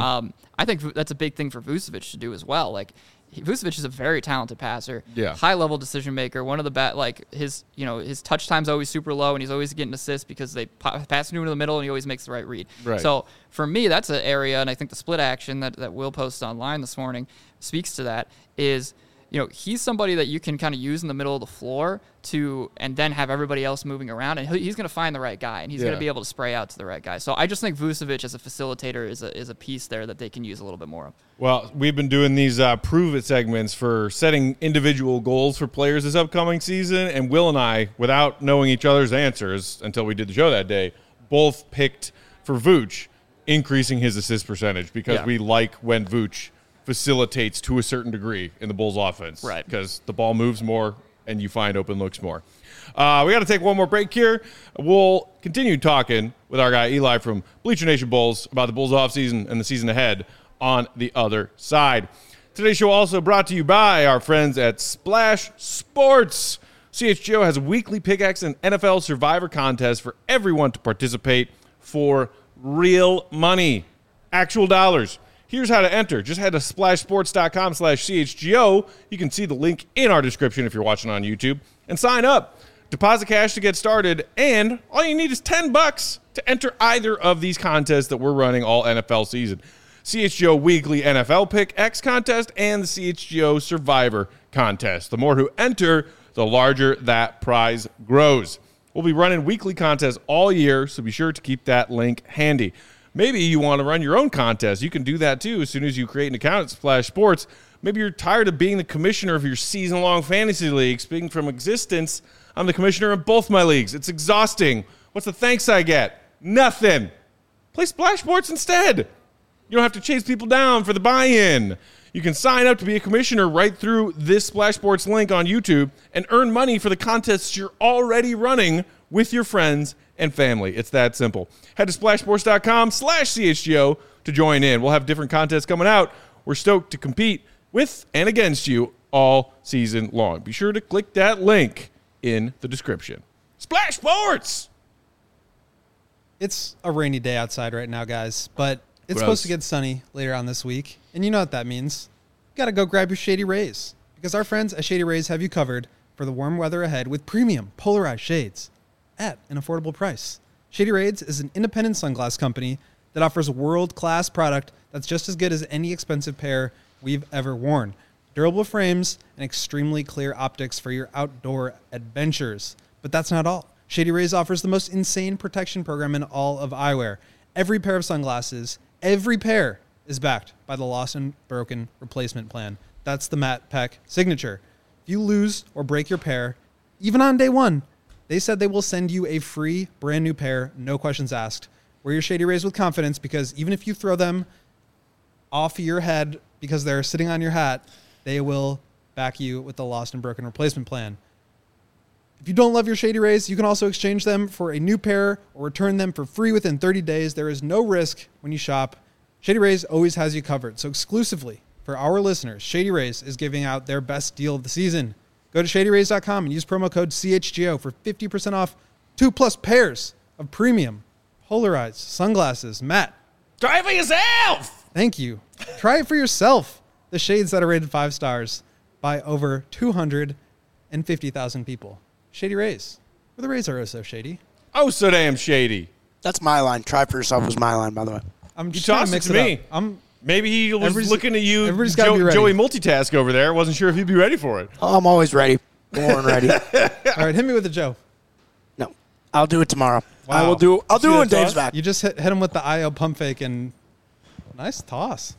I think that's a big thing for Vucevic to do as well. Like Vucevic is a very talented passer, high level decision maker. One of the his touch time's always super low, and he's always getting assists because they pass him into the middle, and he always makes the right read. Right. So for me, that's an area, and I think the split action that Will posted online this morning speaks to that. Is he's somebody that you can kind of use in the middle of the floor and then have everybody else moving around, and he's going to find the right guy, and he's going to be able to spray out to the right guy. So I just think Vucevic as a facilitator is a piece there that they can use a little bit more of. Well, we've been doing these prove it segments for setting individual goals for players this upcoming season, and Will and I, without knowing each other's answers until we did the show that day, both picked for Vooch increasing his assist percentage because we like when Vooch facilitates to a certain degree in the Bulls offense. Right. Because the ball moves more and you find open looks more. We got to take one more break here. We'll continue talking with our guy Eli from Bleacher Nation Bulls about the Bulls offseason and the season ahead on the other side. Today's show also brought to you by our friends at Splash Sports. CHGO has a weekly pickaxe and NFL Survivor contest for everyone to participate for real money, actual dollars. Here's how to enter. Just head to splashsports.com/CHGO. You can see the link in our description if you're watching on YouTube. And sign up. Deposit cash to get started. And all you need is $10 to enter either of these contests that we're running all NFL season. CHGO Weekly NFL Pick X Contest and the CHGO Survivor Contest. The more who enter, the larger that prize grows. We'll be running weekly contests all year, so be sure to keep that link handy. Maybe you want to run your own contest. You can do that too as soon as you create an account at Splash Sports. Maybe you're tired of being the commissioner of your season-long fantasy league. Speaking from existence, I'm the commissioner of both my leagues. It's exhausting. What's the thanks I get? Nothing. Play Splash Sports instead. You don't have to chase people down for the buy-in. You can sign up to be a commissioner right through this Splash Sports link on YouTube and earn money for the contests you're already running with your friends and family. It's that simple. Head to splashsports.com/CHGO to join in. We'll have different contests coming out. We're stoked to compete with and against you all season long. Be sure to click that link in the description. Splash Sports! It's a rainy day outside right now, guys, but it's supposed to get sunny later on this week. And you know what that means. You got to go grab your Shady Rays, because our friends at Shady Rays have you covered for the warm weather ahead with premium polarized shades at an affordable price. Shady Rays is an independent sunglass company that offers a world-class product that's just as good as any expensive pair we've ever worn. durable frames, and extremely clear optics for your outdoor adventures. But that's not all. Shady Rays offers the most insane protection program in all of eyewear. Every pair of sunglasses, every pair, is backed by the Lost and Broken Replacement Plan. That's the Matt Peck signature. If you lose or break your pair, even on day one, they said they will send you a free brand new pair, no questions asked. Wear your Shady Rays with confidence, because even if you throw them off your head because they're sitting on your hat, they will back you with the Lost and Broken Replacement Plan. If you don't love your Shady Rays, you can also exchange them for a new pair or return them for free within 30 days. There is no risk when you shop. Shady Rays always has you covered. So exclusively for our listeners, Shady Rays is giving out their best deal of the season. Go to shadyrays.com and use promo code CHGO for 50% off 2+ pairs of premium polarized sunglasses. Matt, Try it for yourself. thank you. Try it for yourself. The shades that are rated 5 stars by over 250,000 people. Shady Rays. Where the Rays are so shady. Oh, so damn shady. That's my line. Try for yourself was my line, by the way. I'm You just trying tossed to it mix to it me. up. Maybe he was Everybody's- looking at you, everybody's gotta be ready. Joey multitask over there. Wasn't sure if he'd be ready for it. Oh, I'm always ready. Born ready. All right, hit me with a Joe. No, I'll do it tomorrow. Wow. I'll do it See when that Dave's toss? back. You just hit him with the IO pump fake and nice toss.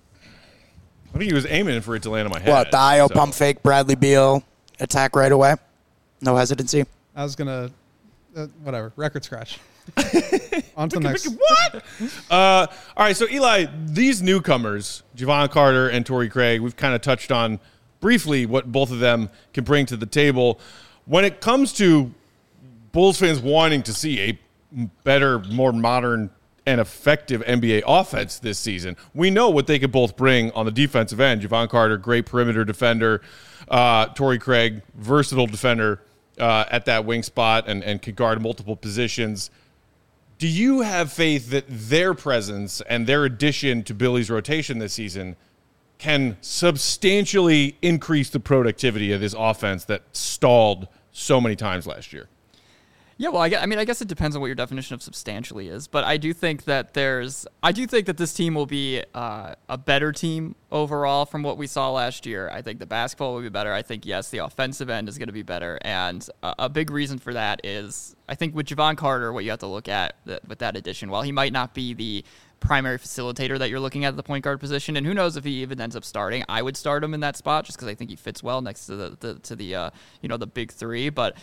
I think he was aiming for it to land on my head. What, the IO so. pump fake, Bradley Beal, attack right away? No hesitancy? I was gonna, whatever, record scratch. On to the next. What? All right, so Eli, these newcomers, Javon Carter and Torrey Craig, we've kind of touched on briefly what both of them can bring to the table. When it comes to Bulls fans wanting to see a better, more modern and effective NBA offense this season, we know what they could both bring on the defensive end. Javon Carter, great perimeter defender. Torrey Craig, versatile defender at that wing spot and can guard multiple positions. Do you have faith that their presence and their addition to Billy's rotation this season can substantially increase the productivity of this offense that stalled so many times last year? Yeah, well, I guess it depends on what your definition of substantially is, but I do think that this team will be a better team overall from what we saw last year. I think the basketball will be better. I think, yes, the offensive end is going to be better, and a big reason for that is I think with Javon Carter, what you have to look at with that addition, while he might not be the primary facilitator that you're looking at the point guard position, and who knows if he even ends up starting. I would start him in that spot just because I think he fits well next to the big three. But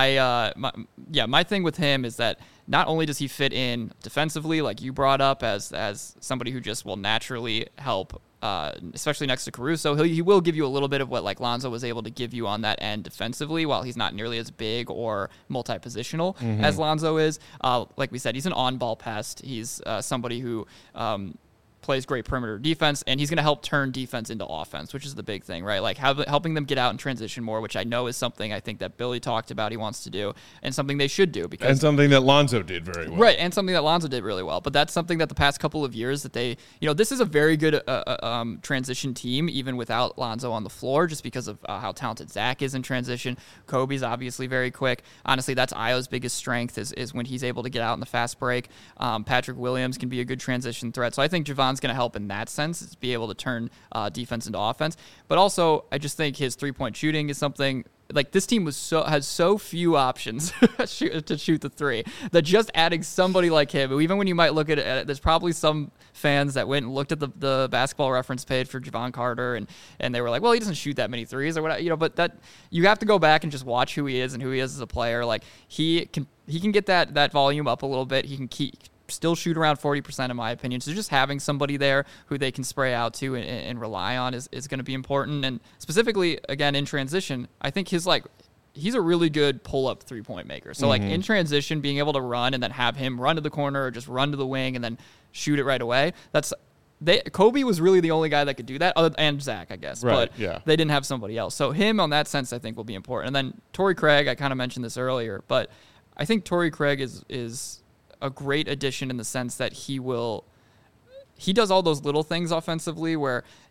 my thing with him is that not only does he fit in defensively, like you brought up, as somebody who just will naturally help. Especially next to Caruso, he will give you a little bit of what like Lonzo was able to give you on that end defensively, while he's not nearly as big or multi-positional as Lonzo is. Like we said, he's an on-ball pest. He's somebody who plays great perimeter defense, and he's going to help turn defense into offense, which is the big thing, right? Like helping them get out and transition more, which I know is something I think that Billy talked about he wants to do, and something they should do. And something that Lonzo did very well. Right, and something that Lonzo did really well. But that's something that the past couple of years that they, this is a very good transition team, even without Lonzo on the floor, just because of how talented Zach is in transition. Kobe's obviously very quick. Honestly, that's Io's biggest strength is when he's able to get out in the fast break. Patrick Williams can be a good transition threat. So I think Javon's going to help in that sense, is be able to turn defense into offense. But also, I just think his three-point shooting is something. Like, this team has so few options to shoot the three that just adding somebody like him, even when you might look at it, there's probably some fans that went and looked at the basketball reference page for Javon Carter and they were like, well, he doesn't shoot that many threes or whatever, but that you have to go back and just watch who he is and who he is as a player. Like, he can get that volume up a little bit. He can still shoot around 40% in my opinion. So just having somebody there who they can spray out to and rely on is going to be important. And specifically, again, in transition, I think he's a really good pull-up three-point maker. So, in transition, being able to run and then have him run to the corner or just run to the wing and then shoot it right away, Kobe was really the only guy that could do that, and Zach, I guess. Right, but yeah. they didn't have somebody else. So him, on that sense, I think will be important. And then Torrey Craig, I kind of mentioned this earlier, but I think Torrey Craig is a great addition in the sense that he does all those little things offensively where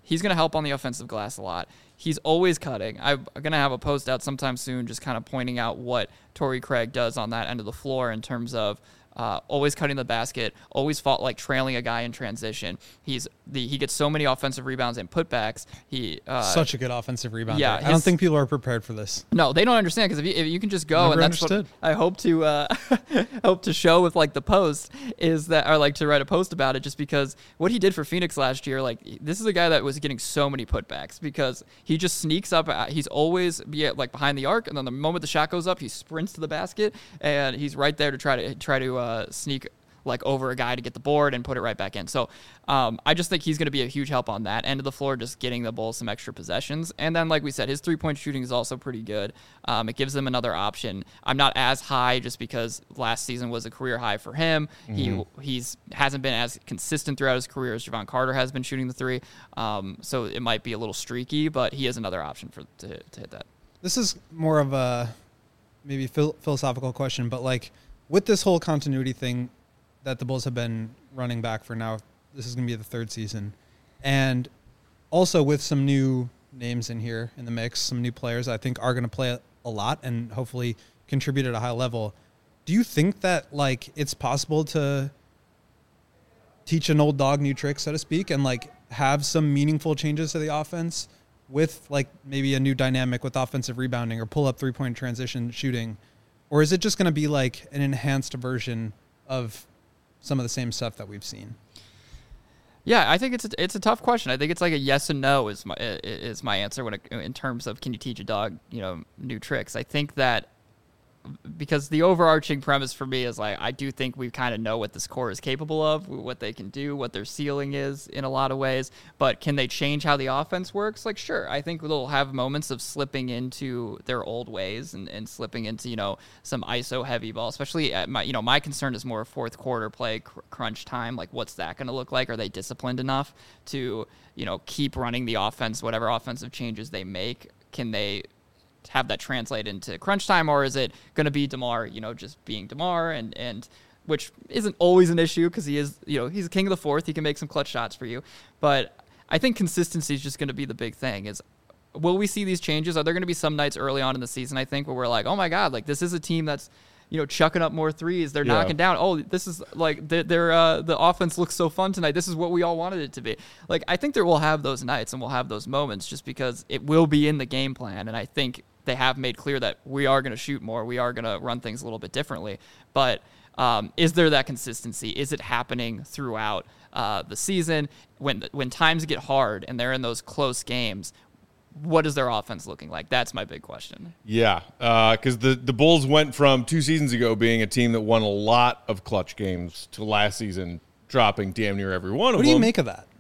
he's going to help on the offensive glass a lot. He's always cutting. I'm going to have a post out sometime soon just kind of pointing out what Torrey Craig does on that end of the floor in terms of always cutting the basket, always fought like trailing a guy in transition. He gets so many offensive rebounds and putbacks. Such a good offensive rebounder. Yeah, I don't think people are prepared for this. No, they don't understand because if you can just go, Never and that's understood. what I hope to hope to show with like the post is that, or like to write a post about it, just because what he did for Phoenix last year, like this is a guy that was getting so many putbacks because he just sneaks up. He's always like behind the arc, and then the moment the shot goes up, he sprints to the basket, and he's right there to try to sneak like over a guy to get the board and put it right back in. So I just think he's going to be a huge help on that end of the floor, just getting the Bulls some extra possessions. And then, like we said, his three-point shooting is also pretty good. It gives them another option. I'm not as high just because last season was a career high for him. He hasn't been as consistent throughout his career as Javon Carter has been shooting the three. So it might be a little streaky, but he is another option to hit that. This is more of a maybe philosophical question, but like with this whole continuity thing that the Bulls have been running back for now, this is going to be the third season. And also with some new names in here in the mix, some new players I think are going to play a lot and hopefully contribute at a high level. Do you think that like it's possible to teach an old dog new tricks, so to speak, and like have some meaningful changes to the offense with like maybe a new dynamic with offensive rebounding or pull up 3-point transition shooting? Or is it just going to be like an enhanced version of some of the same stuff that we've seen? Yeah, I think it's a tough question. I think it's like a yes and no is my answer in terms of can you teach a dog, new tricks. I think that because the overarching premise for me is like I do think we kind of know what this core is capable of, what they can do, what their ceiling is in a lot of ways, but can they change how the offense works? Like, sure, I think they'll have moments of slipping into their old ways and slipping into, some ISO heavy ball, especially at my concern is more fourth quarter play, crunch time. Like, what's that going to look like? Are they disciplined enough to, keep running the offense, whatever offensive changes they make? Can they have that translate into crunch time, or is it going to be DeMar, just being DeMar, and which isn't always an issue because he is, he's a king of the fourth. He can make some clutch shots for you. But I think consistency is just going to be the big thing. Is will we see these changes? Are there going to be some nights early on in the season, I think, where we're like, oh my God, like this is a team that's, chucking up more threes. They're knocking down. Oh, this is like the offense looks so fun tonight. This is what we all wanted it to be. Like, I think we'll have those nights and we'll have those moments just because it will be in the game plan. And I think they have made clear that we are going to shoot more. We are going to run things a little bit differently. But is there that consistency? Is it happening throughout the season? When times get hard and they're in those close games, what is their offense looking like? That's my big question. Yeah, because the Bulls went from 2 seasons ago being a team that won a lot of clutch games to last season dropping damn near every one of them. What do you make of that?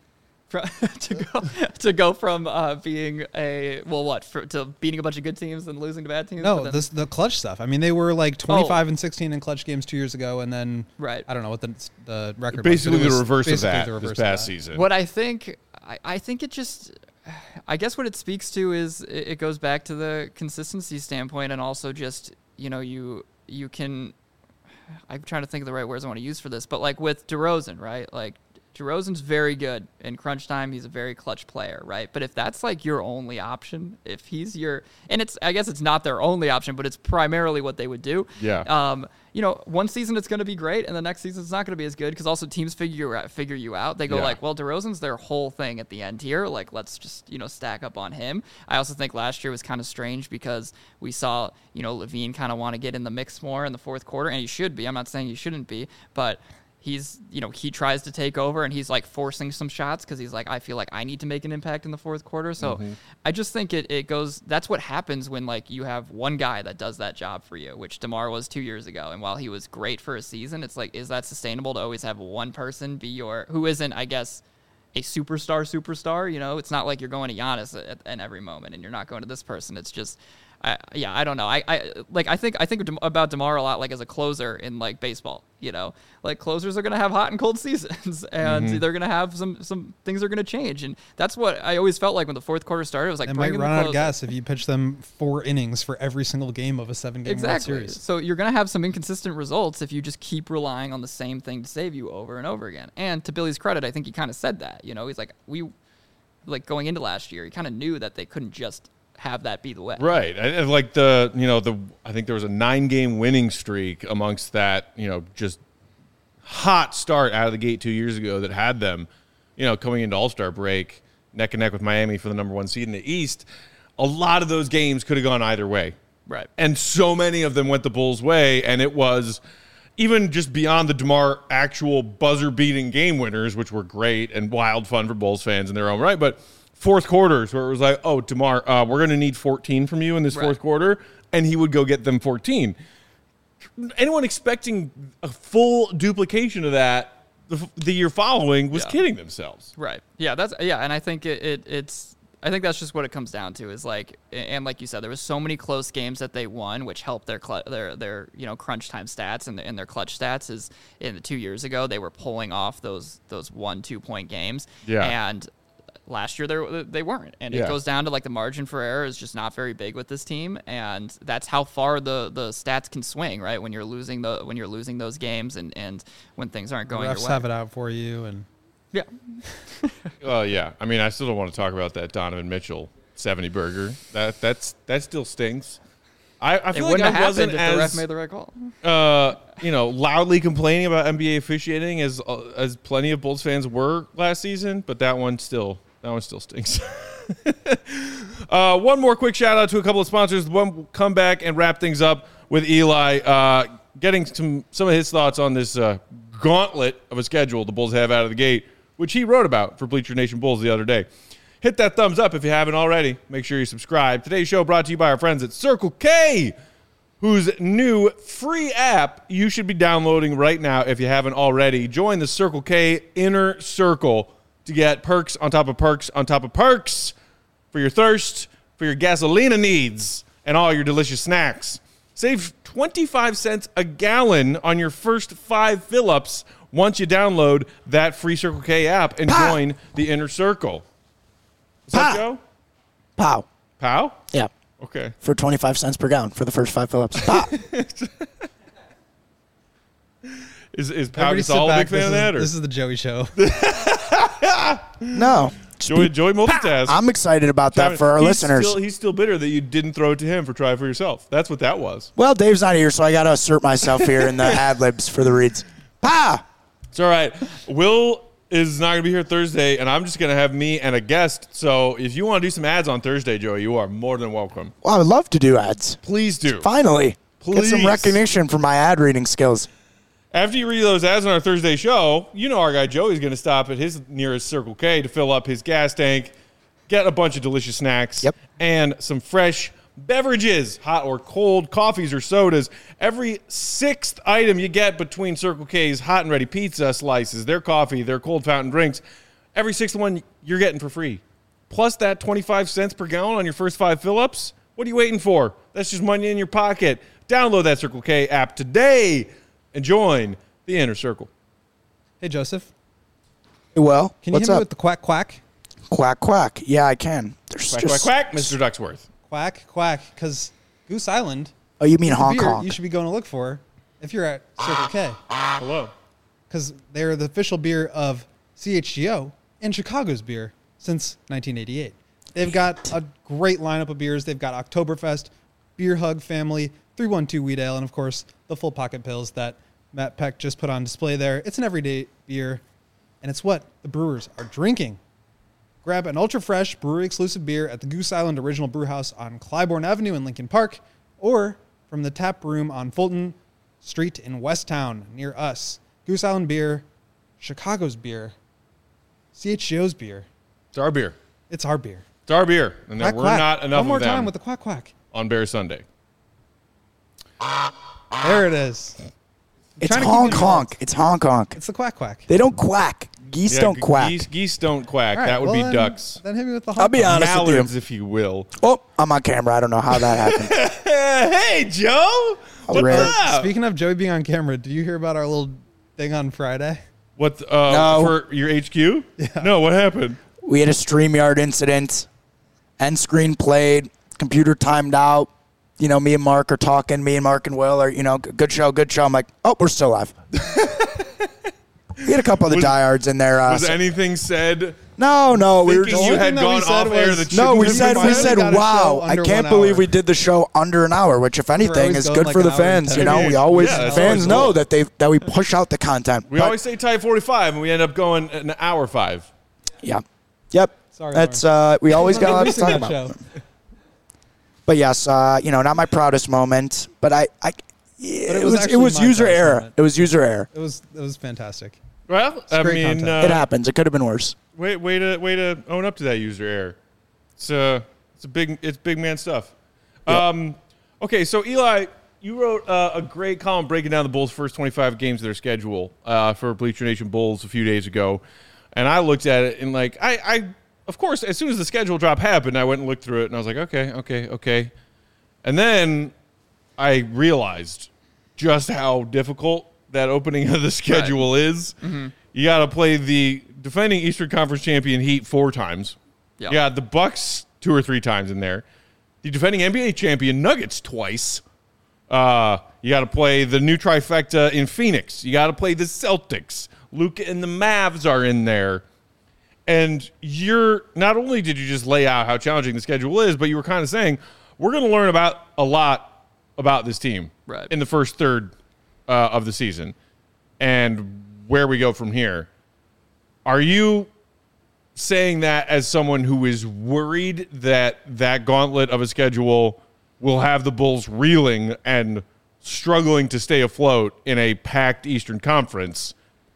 To go from being to beating a bunch of good teams and losing to bad teams? No, the clutch stuff. I mean, they were like 25 and 16 in clutch games 2 years ago, and then right. I don't know what the record basically was. The reverse of basically that the reverse this of past that. season. What I think it just, I guess what it speaks to is it goes back to the consistency standpoint, and also just you can. I'm trying to think of the right words I want to use for this, but like with DeRozan, right? Like DeRozan's very good in crunch time. He's a very clutch player, right? But if that's like your only option, if he's I guess it's not their only option, but it's primarily what they would do. Yeah. One season it's going to be great, and the next season it's not going to be as good because also teams figure you out. They go like, well, DeRozan's their whole thing at the end here. Like, let's just stack up on him. I also think last year was kind of strange because we saw Levine kind of want to get in the mix more in the fourth quarter, and he should be. I'm not saying he shouldn't be, but he's, he tries to take over and he's like forcing some shots because he's like, I feel like I need to make an impact in the fourth quarter. So I just think it goes, that's what happens when like you have one guy that does that job for you, which DeMar was 2 years ago. And while he was great for a season, it's like, is that sustainable to always have one person be who isn't, I guess, a superstar, it's not like you're going to Giannis at every moment and you're not going to this person. It's just, I don't know. I think about DeMar a lot like as a closer in like baseball. Like closers are gonna have hot and cold seasons, and they're gonna have some things are gonna change, and that's what I always felt like when the fourth quarter started. It was like they might run out of gas if you pitch them 4 innings for every single game of a 7-game World Series. So you're gonna have some inconsistent results if you just keep relying on the same thing to save you over and over again. And to Billy's credit, I think he kind of said that. He's like like going into last year, you kind of knew that they couldn't just have that be the way. Right. And like I think there was a 9-game winning streak amongst that, just hot start out of the gate 2 years ago that had them, coming into All-Star break, neck and neck with Miami for the number 1 seed in the East. A lot of those games could have gone either way. Right. And so many of them went the Bulls' way, and it was even just beyond the DeMar actual buzzer-beating game winners, which were great and wild fun for Bulls fans in their own right, but fourth quarters where it was like, oh, DeMar, we're going to need 14 from you in this fourth quarter, and he would go get them 14. Anyone expecting a full duplication of that the year following was kidding themselves. Right. Yeah, and I think it's I think that's just what it comes down to is like, and like you said, there was so many close games that they won, which helped their crunch time stats and their clutch stats. Is in the 2 years ago they were pulling off those 1-2 point games. Yeah. And last year they weren't, and it goes down to like the margin for error is just not very big with this team, and that's how far the stats can swing, right? When you're losing those games and when things aren't going your way. Refs have it out for you, and yeah. Yeah. I mean, I still don't want to talk about that Donovan Mitchell 70 burger. That still stings. I feel like I wasn't if as the ref made the right call. Loudly complaining about NBA officiating as plenty of Bulls fans were last season, but that one still stings. One more quick shout out to a couple of sponsors. We'll come back and wrap things up with Eli, getting some of his thoughts on this gauntlet of a schedule the Bulls have out of the gate, which he wrote about for Bleacher Nation Bulls the other day. Hit that thumbs up if you haven't already. Make sure you subscribe. Today's show brought to you by our friends at Circle K, whose new free app you should be downloading right now if you haven't already. Join the Circle K Inner Circle to get perks on top of perks on top of perks for your thirst, for your gasolina needs, and all your delicious snacks. Save 25 cents a gallon on your first 5 fill-ups once you download that free Circle K app and join the Inner Circle. What's up, Joe? Pow. Pow? Yeah. Okay. For 25 cents per gallon for the first 5 fill-ups. Pow. Is Pow Gasol a big fan of that? Or? This is the Joey Show. No. Joey multitask. I'm excited about that for our listeners. He's still bitter that you didn't throw it to him for try it for yourself. That's what that was. Well, Dave's not here, so I got to assert myself here in the ad-libs for the reads. Pa! It's all right. Will is not going to be here Thursday, and I'm just going to have me and a guest. So if you want to do some ads on Thursday, Joey, you are more than welcome. Well, I would love to do ads. Please do. Finally. Please. Get some recognition for my ad reading skills. After you read those ads on our Thursday show, you know our guy Joey's going to stop at his nearest Circle K to fill up his gas tank, get a bunch of delicious snacks, and some fresh beverages, hot or cold, coffees or sodas. Every 6th item you get between Circle K's hot and ready pizza slices, their coffee, their cold fountain drinks, every 6th one you're getting for free. Plus that 25 cents per gallon on your first 5 fill-ups. What are you waiting for? That's just money in your pocket. Download that Circle K app today and join the Inner Circle. Hey, Joseph. Well, can you hit me with the quack quack? Quack quack. Yeah, I can. Quack quack quack, Mr. Ducksworth. Quack quack, because Goose Island. Oh, you mean Hong Kong? You should be going to look for if you're at Circle K. Hello. Because they're the official beer of CHGO and Chicago's beer since 1988. They've got a great lineup of beers. They've got Oktoberfest, Beer Hug Family, 312 Wheat Ale, and, of course, the Full Pocket Pills that Matt Peck just put on display there. It's an everyday beer, and it's what the brewers are drinking. Grab an ultra-fresh, brewery-exclusive beer at the Goose Island Original Brewhouse on Clybourne Avenue in Lincoln Park, or from the tap room on Fulton Street in Westtown near us. Goose Island beer, Chicago's beer, CHGO's beer. It's our beer. It's our beer. It's our beer. And quack, we're quack. not enough One more of them time with the quack quack. on Bear Sunday. There it is. It's Hong Kong. It's Hong Kong. It's the quack quack. They don't quack. Geese don't quack. Geese don't quack. Right, that would be then, ducks. Then hit me with the Hong I'll be Kong. honest with Mallards, you. if you will. Oh, I'm on camera. I don't know how that happened. Hey, Joe. What's rare. up? Speaking of Joey being on camera, did you hear about our little thing on Friday? What No. for your HQ? Yeah. No, what happened? We had a StreamYard incident. End screen played. Computer timed out. You know, me and Mark are talking. Me and Mark and Will are, good show, good show. I'm like, oh, we're still live. We had a couple of the diehards in there. Was anything said No, we were Thinking just you had thing that we gone said off air was- that No, shouldn't we have said been we said. said- got a wow, show I under can't 1 believe hour. we did the show under an hour, which if anything always is going good like for an the hour and fans. 10 You know, we minutes. always Yeah, that's fans always know cool. that we push out the content. We But, always say tie 45, and we end up going an hour 5. yeah, yep. Sorry, That's we always got a lot to Releasing talk that about. show. But yes, not my proudest moment, but it was was actually my user proudest error. moment. It was user error. It was fantastic. Well, I great mean, content. It happens. It could have been worse. way to own up to that user error. It's big man stuff. Yep. Okay, so Eli, you wrote a great column breaking down the Bulls' first 25 games of their schedule for Bleacher Nation Bulls a few days ago, and I looked at it and I of course as soon as the schedule drop happened, I went and looked through it and I was like, okay, and then I realized just how difficult that opening of the schedule is. Mm-hmm. You got to play the defending Eastern Conference champion Heat 4 times. Yeah. You got the Bucks 2 or 3 times in there. The defending NBA champion Nuggets twice. You got to play the new trifecta in Phoenix. You got to play the Celtics. Luka and the Mavs are in there. And not only did you just lay out how challenging the schedule is, but you were kind of saying, we're going to learn a lot about this team in the first third of the season and where we go from here. Are you saying that as someone who is worried that gauntlet of a schedule will have the Bulls reeling and struggling to stay afloat in a packed Eastern Conference?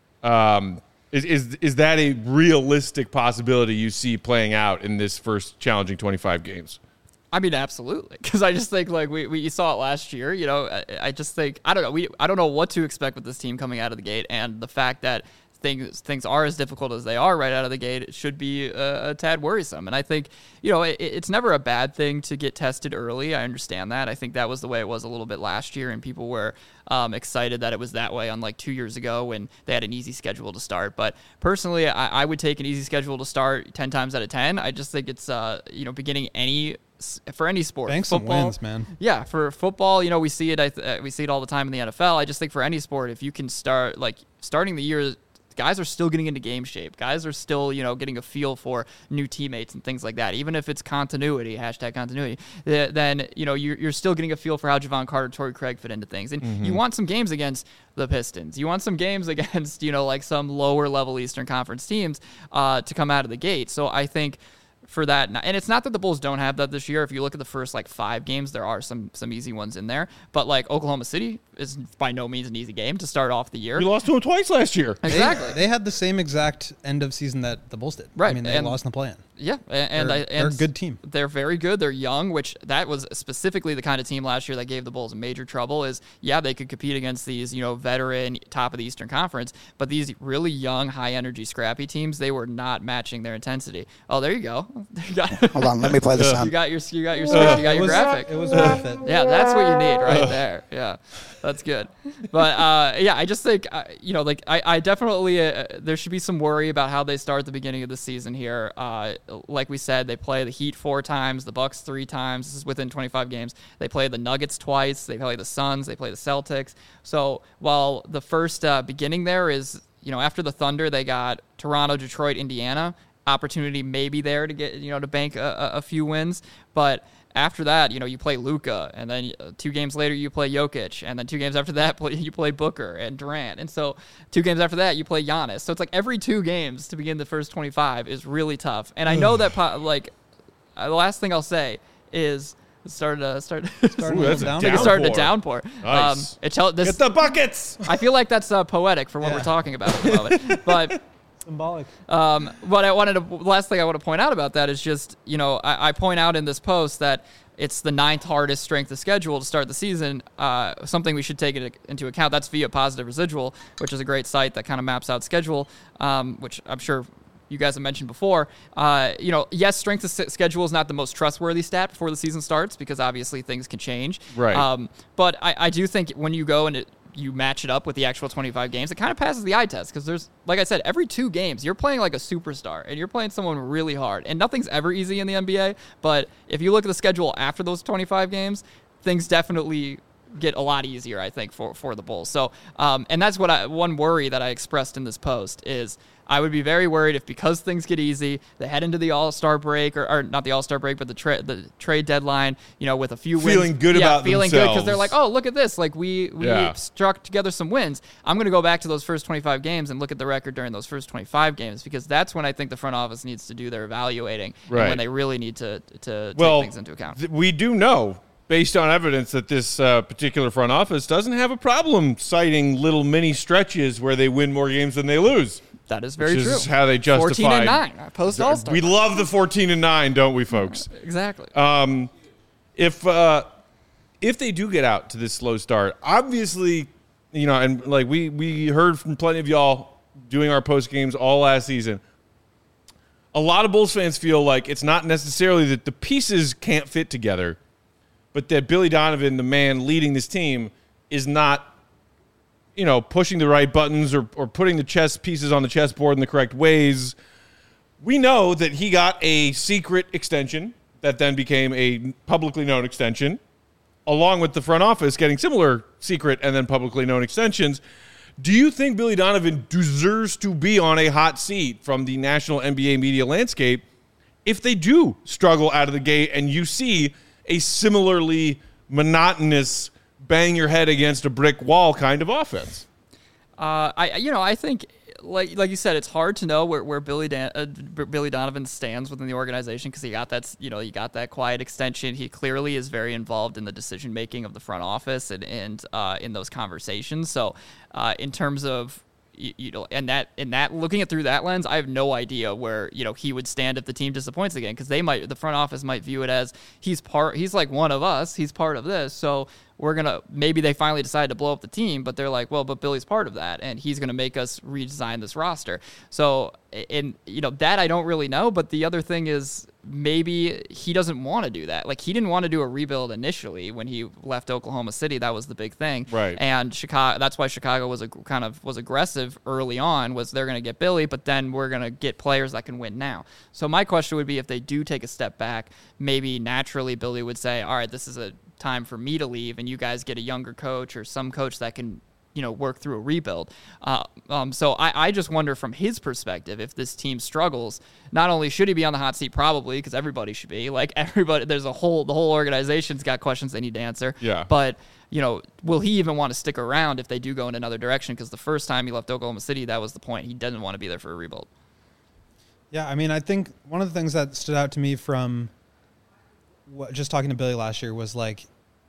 Is that a realistic possibility you see playing out in this first challenging 25 games? I mean, absolutely, because I just think like we saw it last year. You know, I just think I don't know. I don't know what to expect with this team coming out of the gate, and the fact that things are as difficult as they are right out of the gate, it should be a tad worrisome. And I think, it's never a bad thing to get tested early. I understand that. I think that was the way it was a little bit last year, and people were excited that it was that way, unlike 2 years ago when they had an easy schedule to start. But personally, I would take an easy schedule to start 10 times out of 10. I just think it's, beginning for any sport. Bank some Football, wins, man. Yeah, for football, we see it. We see it all the time in the NFL. I just think for any sport, if you can starting the year, guys are still getting into game shape. Guys are still, getting a feel for new teammates and things like that. Even if it's continuity, #continuity, then, you're still getting a feel for how Javon Carter, Torrey Craig fit into things. And you want some games against the Pistons. You want some games against, some lower level Eastern Conference teams to come out of the gate. So I think for that, and it's not that the Bulls don't have that this year. If you look at the first 5 games, there are some easy ones in there. But Oklahoma City is by no means an easy game to start off the year. We lost to them twice last year. Exactly. They had the same exact end of season that the Bulls did. Right. I mean, they lost in the play-in. Yeah, and They're a good team. They're very good. They're young, which that was specifically the kind of team last year that gave the Bulls major trouble. They could compete against these veteran top of the Eastern Conference, but these really young, high energy, scrappy teams, they were not matching their intensity. Oh, there you go. Hold on, let me play the You sound. got your graphic. It was worth it. Yeah, that's what you need right there. Yeah, that's good. But I just think I definitely there should be some worry about how they start the beginning of the season here. Like we said, they play the Heat 4 times, the Bucks 3 times. This is within 25 games. They play the Nuggets twice. They play the Suns. They play the Celtics. So while the first beginning there is, after the Thunder, they got Toronto, Detroit, Indiana. Opportunity maybe there to get, to bank a few wins. But after that, you play Luka, and then 2 games later you play Jokic, and then 2 games after that you play Booker and Durant, and so 2 games after that you play Giannis. So it's every 2 games to begin the first 25 is really tough. And I know that the last thing I'll say is started a downpour. Nice. Get Get the buckets. I feel like that's poetic for what we're talking about at the moment, but. Symbolic. The last thing I want to point out about that is just, I point out in this post that it's the 9th hardest strength of schedule to start the season. Something we should take into account. That's via Positive Residual, which is a great site that kind of maps out schedule, which I'm sure you guys have mentioned before. Yes, strength of schedule is not the most trustworthy stat before the season starts because obviously things can change. Right. But I do think when you go and you match it up with the actual 25 games, it kind of passes the eye test because there's, like I said, every 2 games you're playing like a superstar and you're playing someone really hard, and nothing's ever easy in the NBA. But if you look at the schedule after those 25 games, things definitely get a lot easier, I think, for the Bulls. So, and that's what one worry that I expressed in this post is I would be very worried if, because things get easy, they head into the All-Star break, or not the All-Star break, but the trade deadline, with a few feeling wins. Good about feeling themselves. good because they're like, oh, look at this. Like, we struck together some wins. I'm going to go back to those first 25 games and look at the record during those first 25 games, because that's when I think the front office needs to do their evaluating and when they really need to take things into account. We do know, based on evidence, that this particular front office doesn't have a problem citing little mini stretches where they win more games than they lose. That is very true. Which is how they justify 14-9 post All-Star. We love the 14-9, don't we, folks? Exactly. If they do get out to this slow start, obviously, and like we heard from plenty of y'all doing our post games all last season, a lot of Bulls fans feel like it's not necessarily that the pieces can't fit together, but that Billy Donovan, the man leading this team, is not, pushing the right buttons or putting the chess pieces on the chessboard in the correct ways. We know that he got a secret extension that then became a publicly known extension, along with the front office getting similar secret and then publicly known extensions. Do you think Billy Donovan deserves to be on a hot seat from the national NBA media landscape if they do struggle out of the gate and you see a similarly monotonous bang your head against a brick wall kind of offense? I think, like you said, it's hard to know where Billy Donovan stands within the organization, because he got that quiet extension. He clearly is very involved in the decision making of the front office and in those conversations. So, in terms of and that looking at through that lens, I have no idea where he would stand if the team disappoints again, because the front office might view it as he's like one of us, he's part of this, so maybe they finally decide to blow up the team, but they're like, well, but Billy's part of that, and he's going to make us redesign this roster. So, that I don't really know, but the other thing is maybe he doesn't want to do that. Like, he didn't want to do a rebuild initially when he left Oklahoma City. That was the big thing. Right. And Chicago, that's why Chicago was aggressive early on, was they're going to get Billy, but then we're going to get players that can win now. So my question would be, if they do take a step back, maybe naturally Billy would say, all right, this is a time for me to leave, and you guys get a younger coach or some coach that can work through a rebuild. So I just wonder from his perspective, if this team struggles, not only should he be on the hot seat, probably, because everybody should be, like, everybody, the whole organization's got questions they need to answer. Yeah. But, will he even want to stick around if they do go in another direction? Because the first time he left Oklahoma City, that was the point. He didn't want to be there for a rebuild. Yeah, I mean, I think one of the things that stood out to me from just talking to Billy last year was, like,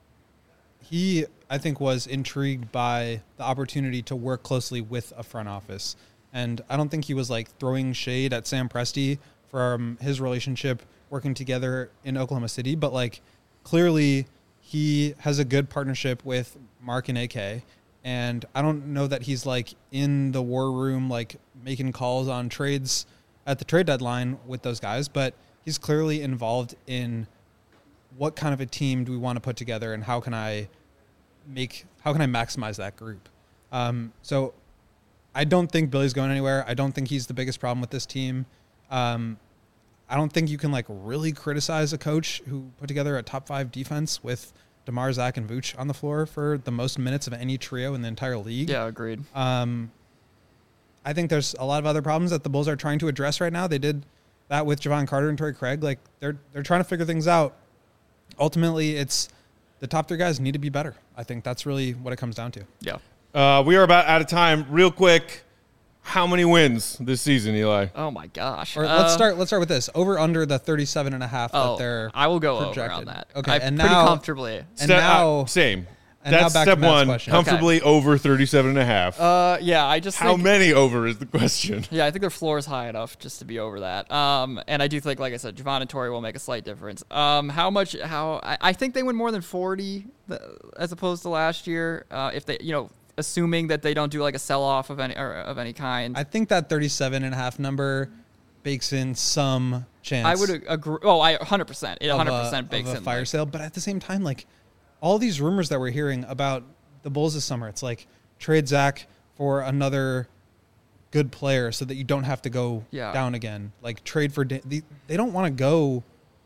he, I think, was intrigued by the opportunity to work closely with a front office. And I don't think he was, like, throwing shade at Sam Presti from his relationship working together in Oklahoma City. But, like, clearly he has a good partnership with Mark and AK. And I don't know that he's, like, in the war room, like, making calls on trades at the trade deadline with those guys. But he's clearly involved in what kind of a team do we want to put together, and how can I maximize that group? So I don't think Billy's going anywhere. I don't think he's the biggest problem with this team. I don't think you can, like, really criticize a coach who put together a top 5 defense with DeMar, Zach, and Vooch on the floor for the most minutes of any trio in the entire league. Yeah, agreed. I think there's a lot of other problems that the Bulls are trying to address right now. They did that with Javon Carter and Torrey Craig. Like, they're trying to figure things out. Ultimately, it's the top 3 guys need to be better. I think that's really what it comes down to. Yeah. We are about out of time. Real quick, how many wins this season, Eli? Oh my gosh. Or let's start with this. Over under the 37.5 that they're I will go projected. over on that. Okay, and pretty comfortably. And now same. And That's now back to step Matt's one. question. Comfortably over 37.5. Yeah, I just How think, many over is the question? Yeah, I think their floor is high enough just to be over that. And I do think, like I said, Javon and Torrey will make a slight difference. I think they win more than 40 as opposed to last year. If they, assuming that they don't do like a sell-off of any kind. I think that 37.5 number bakes in some chance. I would agree. Oh, 100%. It 100% bakes in a fire sale. But at the same time, like, all these rumors that we're hearing about the Bulls this summer, it's like trade Zach for another good player so that you don't have to go down again. Like, trade for they don't want to go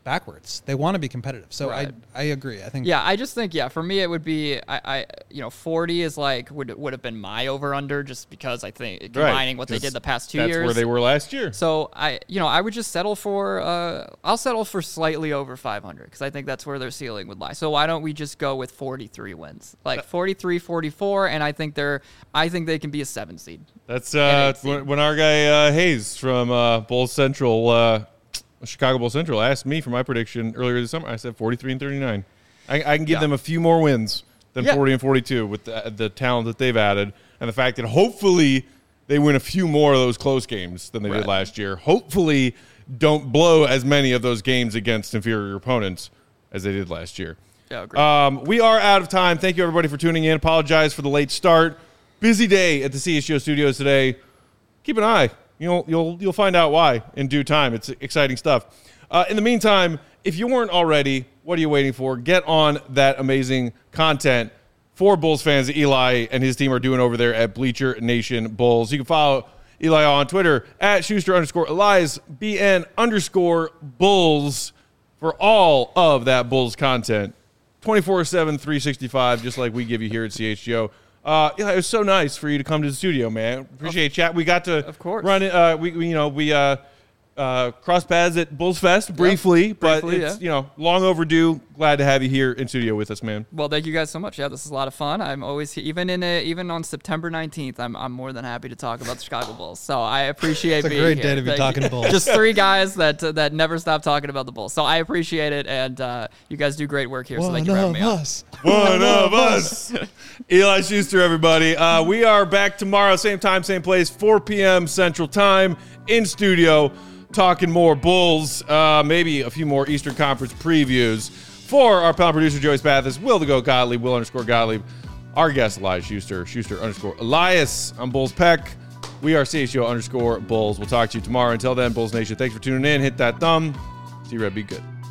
backwards. They want to be competitive. So Right. I agree. I think Yeah, I just think for me it would be 40 is like would have been my over under just because I think combining what they did the past 2 years. That's where they were last year. So I would just settle for I'll settle for slightly over 500 because I think that's where their ceiling would lie. So why don't we just go with 43 wins, like 43, 44, and I think they can be a 7 seed. That's seed. when our guy Hayes from Bulls Central, Chicago Bulls Central, asked me for my prediction earlier this summer. I said 43 and 39. I can give them a few more wins than 40 and 42 with the talent that they've added and the fact that hopefully they win a few more of those close games than they did last year. Hopefully don't blow as many of those games against inferior opponents as they did last year. Yeah, agreed. We are out of time. Thank you, everybody, for tuning in. Apologize for the late start. Busy day at the CHGO studios today. Keep an eye. You'll find out why in due time. It's exciting stuff. In the meantime, if you weren't already, what are you waiting for? Get on that amazing content for Bulls fans that Eli and his team are doing over there at Bleacher Nation Bulls. You can follow Eli on Twitter at Schuster_Elias BN_Bulls for all of that Bulls content. 24/7, 365, just like we give you here at CHGO. It was so nice for you to come to the studio, man. Appreciate chat. We got to run it. We crossed paths at Bulls Fest briefly, but it's long overdue. Glad to have you here in studio with us, man. Well, thank you guys so much. Yeah, this is a lot of fun. I'm always even on September 19th. I'm more than happy to talk about the Chicago Bulls. So I appreciate being here. It's a great day to be talking Bulls. Just 3 guys that never stop talking about the Bulls. So I appreciate it, and you guys do great work here. So thank you for having me on. One of us. Eli Schuster, everybody. We are back tomorrow, same time, same place, 4 p.m. Central Time in studio, talking more Bulls, maybe a few more Eastern Conference previews. For our panel producer, Joey Spathis, Will the Goat Gottlieb, Will_Gottlieb, our guest, Elias Schuster, Schuster_Elias. I'm Bulls Peck. We are CHGO_Bulls. We'll talk to you tomorrow. Until then, Bulls Nation, thanks for tuning in. Hit that thumb. See you, Red. Be good.